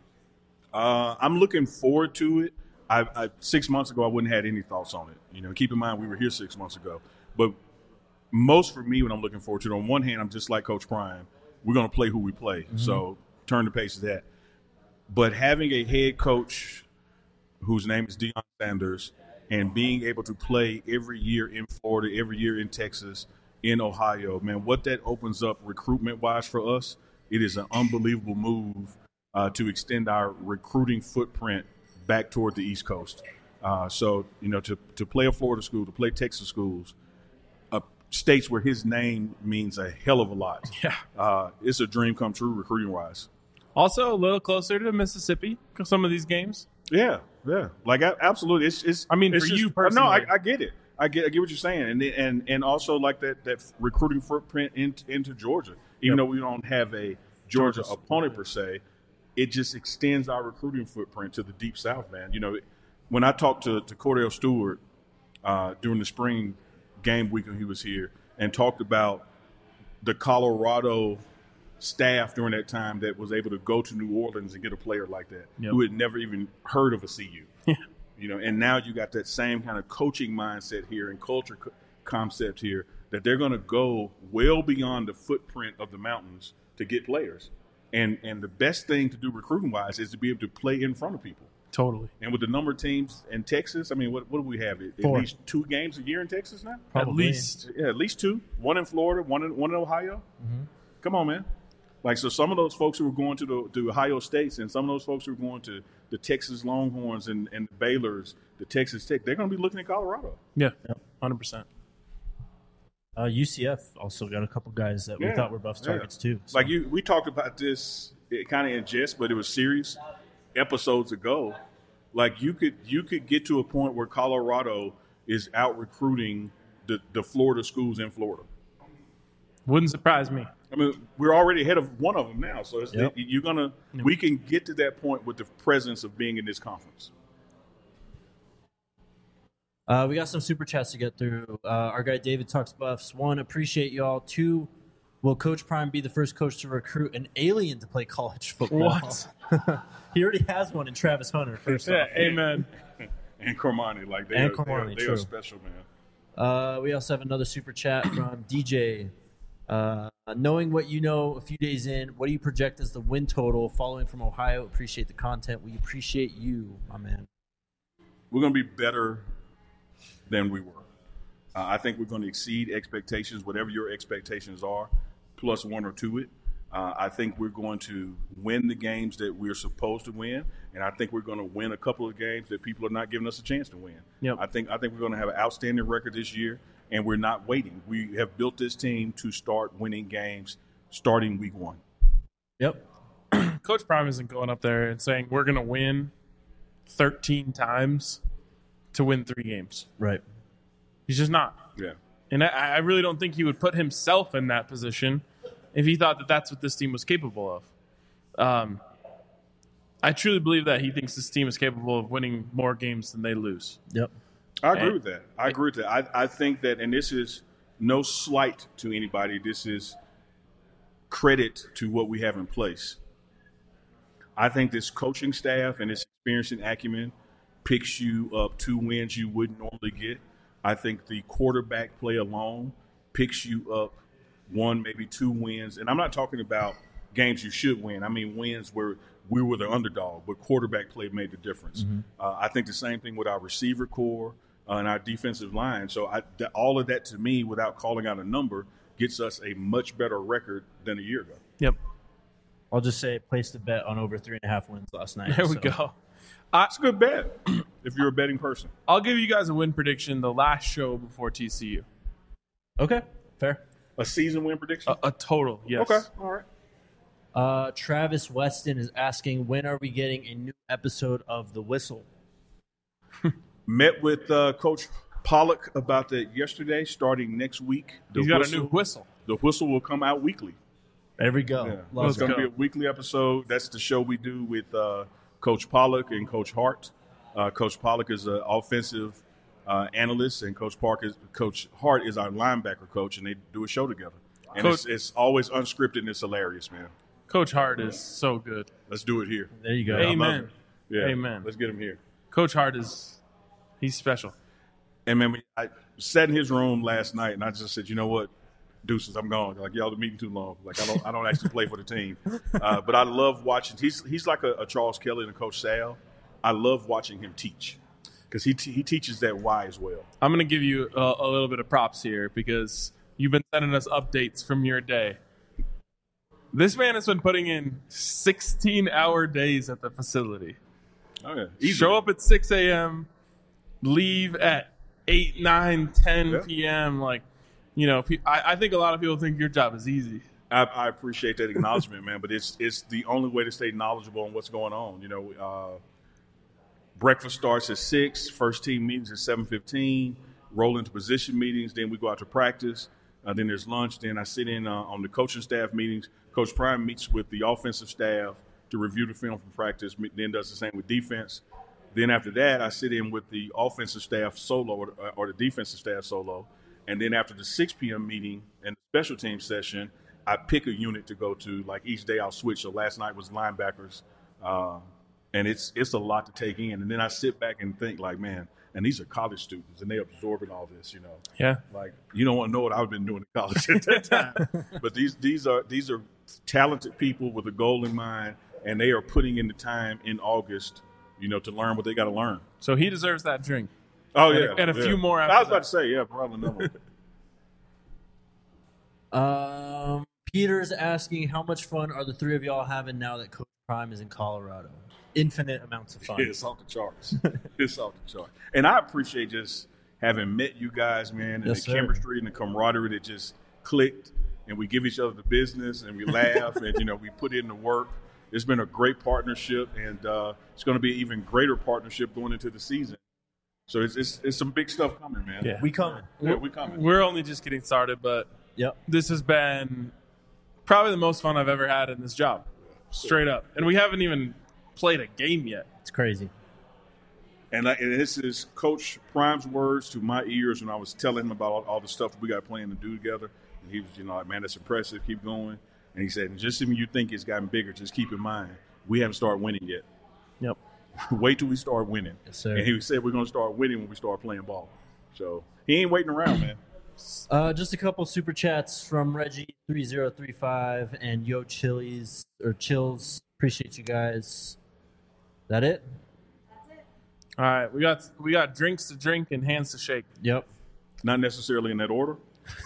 I'm looking forward to it. 6 months ago, I wouldn't have had any thoughts on it. Keep in mind we were here 6 months ago. But most for me, what I'm looking forward to, on one hand, I'm just like Coach Prime. We're going to play who we play. Mm-hmm. So turn the pace to that. But having a head coach whose name is Deion Sanders and being able to play every year in Florida, every year in Texas, in Ohio, man, what that opens up recruitment-wise for us, it is an unbelievable move to extend our recruiting footprint back toward the East Coast. So, to play a Florida school, to play Texas schools, states where his name means a hell of a lot. Yeah. It's a dream come true recruiting-wise. Also, a little closer to Mississippi, some of these games. Yeah. Absolutely. It's. I mean, for you personally. No, I get it. I get what you're saying, and also that recruiting footprint into Georgia. Even though we don't have a Georgia opponent per se, it just extends our recruiting footprint to the Deep South, man. When I talked to Cordell Stewart during the spring game week when he was here and talked about the Colorado staff during that time that was able to go to New Orleans and get a player like that who had never even heard of a CU. And now you got that same kind of coaching mindset here and culture concept here that they're going to go well beyond the footprint of the mountains to get players. And the best thing to do recruiting-wise is to be able to play in front of people. Totally. And with the number of teams in Texas, I mean, what do we have? At 4. least 2 games a year in Texas now? Probably. At least 2. One in Florida, one in Ohio. Mm-hmm. Come on, man. So some of those folks who were going to the Ohio States and some of those folks who were going to the Texas Longhorns and the Baylors, the Texas Tech, they're going to be looking at Colorado. Yeah, 100%. UCF also got a couple guys that we thought were Buffs targets too. So. We talked about this kind of in jest, but it was serious episodes ago. You could get to a point where Colorado is out recruiting the Florida schools in Florida. Wouldn't surprise me. I mean, we're already ahead of one of them now, so we can get to that point with the presence of being in this conference. We got some super chats to get through. Our guy David talks Buffs. 1, appreciate y'all. 2, Will Coach Prime be the first coach to recruit an alien to play college football? What? He already has one in Travis Hunter, first Yeah, off. amen. And Cormani, like they And are, Cormani, they true. are special, man. We also have another super chat from DJ. Knowing what you know a few days in, what do you project as the win total? Following from Ohio, appreciate the content. We appreciate you, my man. We're going to be better than we were. I think we're going to exceed expectations, whatever your expectations are, plus one or two it. I think we're going to win the games that we're supposed to win, and I think we're going to win a couple of games that people are not giving us a chance to win. Yep. I think we're going to have an outstanding record this year, and we're not waiting. We have built this team to start winning games starting week 1. Yep. Coach Prime isn't going up there and saying we're going to win 13 times to win 3 games. Right. He's just not. Yeah. And I really don't think he would put himself in that position if he thought that that's what this team was capable of. I truly believe that he thinks this team is capable of winning more games than they lose. Yep. I agree with that. I think that, and this is no slight to anybody. This is credit to what we have in place. I think this coaching staff and this experience and acumen picks you up 2 wins you wouldn't normally get. I think the quarterback play alone picks you up 1, maybe 2 wins. And I'm not talking about games you should win. I mean wins where we were the underdog, but quarterback play made the difference. Mm-hmm. I think the same thing with our receiver core and our defensive line. So all of that, to me, without calling out a number, gets us a much better record than a year ago. Yep. I'll just say placed a bet on over 3.5 wins last night. There we so. go. It's a good bet if you're a betting person. I'll give you guys a win prediction the last show before TCU. Okay. Fair. A season win prediction? A total, yes. Okay. All right. Travis Weston is asking, when are we getting a new episode of The Whistle? Met with Coach Pollock about that yesterday. Starting next week, He's got a new whistle. The whistle will come out weekly. There we go. Yeah. Let's It's going to go. be a weekly episode. That's the show we do with Coach Pollock and Coach Hart. Coach Pollock is an offensive analyst, and Coach Hart is our linebacker coach, and they do a show together. And it's always unscripted, and it's hilarious, man. Coach Hart is so good. Let's do it here. There you go. I love Amen. it. Yeah. Amen. Let's get him here. Coach Hart he's special. And man, I sat in his room last night, and I just said, you know what, deuces, I'm gone. Like, y'all are meeting too long. Like, I don't actually play for the team. But I love watching. He's like a Charles Kelly and a Coach Sal. I love watching him teach because he teaches that why as well. I'm going to give you a little bit of props here because you've been sending us updates from your day. This man has been putting in 16-hour days at the facility. Oh yeah, easy. Show up at 6 a.m., leave at 8, 9, 10 Yeah. p.m. Like, you know, I think a lot of people think your job is easy. I appreciate that acknowledgement, man. But it's the only way to stay knowledgeable on what's going on. You know, breakfast starts at 6. First team meetings at 7:15. Roll into position meetings. Then we go out to practice. Then there's lunch. Then I sit in on the coaching staff meetings. Coach Prime meets with the offensive staff to review the film from practice. Then does the same with defense. Then after that, I sit in with the offensive staff solo or the defensive staff solo. And then after the 6 p.m. meeting and the special team session, I pick a unit to go to. Like each day I'll switch. So last night was linebackers. And it's a lot to take in. And then I sit back and think like, man, and these are college students and they're absorbing all this, you know. Yeah. Like, you don't want to know what I've been doing in college at that time. But these are talented people with a goal in mind, and they are putting in the time in August, you know, to learn what they got to learn. So he deserves that drink. Oh, yeah. And a few more I after was about that. to say, yeah, probably another one. Peter's asking, how much fun are the three of y'all having now that Coach Prime is in Colorado? Infinite amounts of fun. It's off the charts. It's off the charts. And I appreciate just having met you guys, man, and Yes, the sir. chemistry and the camaraderie that just clicked, and we give each other the business, and we laugh, and, you know, we put in the work. It's been a great partnership, and it's going to be an even greater partnership going into the season. So it's some big stuff coming, man. Yeah. We coming. Yeah, we coming. We're only just getting started, but Yep. this has been probably the most fun I've ever had in this job. Straight up. And we haven't even played a game yet. It's crazy. And this is Coach Prime's words to my ears when I was telling him about all the stuff we got planned to do together. And he was, like, man, that's impressive. Keep going. And he said, just when you think it's gotten bigger, just keep in mind, we haven't started winning yet. Yep. Wait till we start winning. Yes, sir. And he said we're going to start winning when we start playing ball. So he ain't waiting around, man. Just a couple super chats from Reggie3035 and Yo Chilies or Chills. Appreciate you guys. That it? All right, we got drinks to drink and hands to shake. Yep. Not necessarily in that order.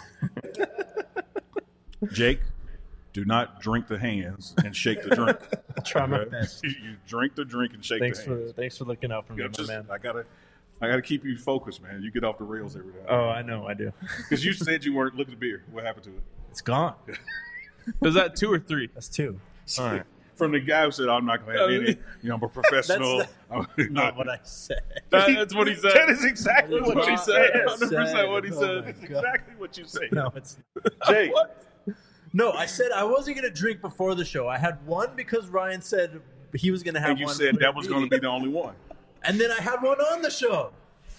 Jake, do not drink the hands and shake the drink. I'll try my Okay? best. You drink the drink and shake the hands. Thanks for looking out for me, You know, my just- man. I gotta keep you focused, man. You get off the rails every time. Oh, I know, I do. Because you said you weren't looking at beer. What happened to it? It's gone. Is that 2 or 3? That's 2. All right. From the guy who said, I'm not going to have any. I'm a professional. Not what I said. That's what he said. That is exactly That's what you he said. 100% what he Oh said. my That's God. exactly what you said. No, it's Jake, no. I said I wasn't gonna drink before the show. I had one because Ryan said he was gonna have and you one. said for that was me. going to be the only one. And then I had one on the show.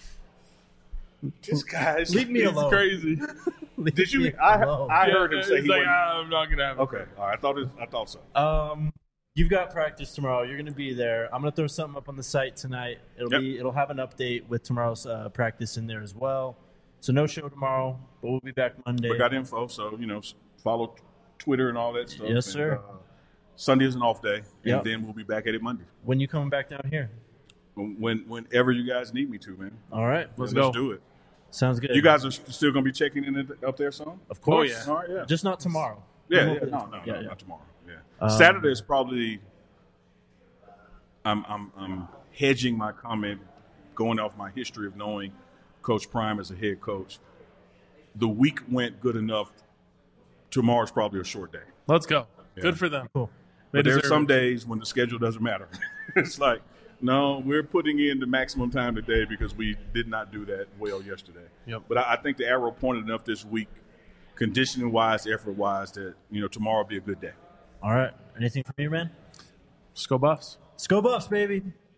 This guy's Leave me He's alone. crazy. Leave Did you? me I alone. heard him say He's he like, wasn't. I'm not gonna have it. Okay, all right. I thought so. You've got practice tomorrow. You're gonna be there. I'm gonna throw something up on the site tonight. It'll have an update with tomorrow's practice in there as well. So no show tomorrow, but we'll be back Monday. We got info, so follow Twitter and all that stuff. Yes, And, sir. Sunday is an off day, Yep. and then we'll be back at it Monday. When you coming back down here? Whenever you guys need me to, man. All right, Let's Let's go. do it. sounds good. You guys are still going to be checking in up there some? of course. Oh, yeah. All right, yeah. Just not tomorrow. Yeah, We'll yeah. hopefully- No, yeah. not tomorrow. Yeah. Saturday is probably. I'm hedging my comment, going off my history of knowing Coach Prime as a head coach. The week went good enough. Tomorrow's probably a short day. Let's go. Yeah. Good for them. Cool. They But there's deserve some it. days when the schedule doesn't matter. It's like, no, we're putting in the maximum time today because we did not do that well yesterday. Yep. But I think the arrow pointed enough this week, conditioning wise, effort wise, that tomorrow will be a good day. All right. Anything from you, man? Let's go Buffs. Let's go Buffs, baby.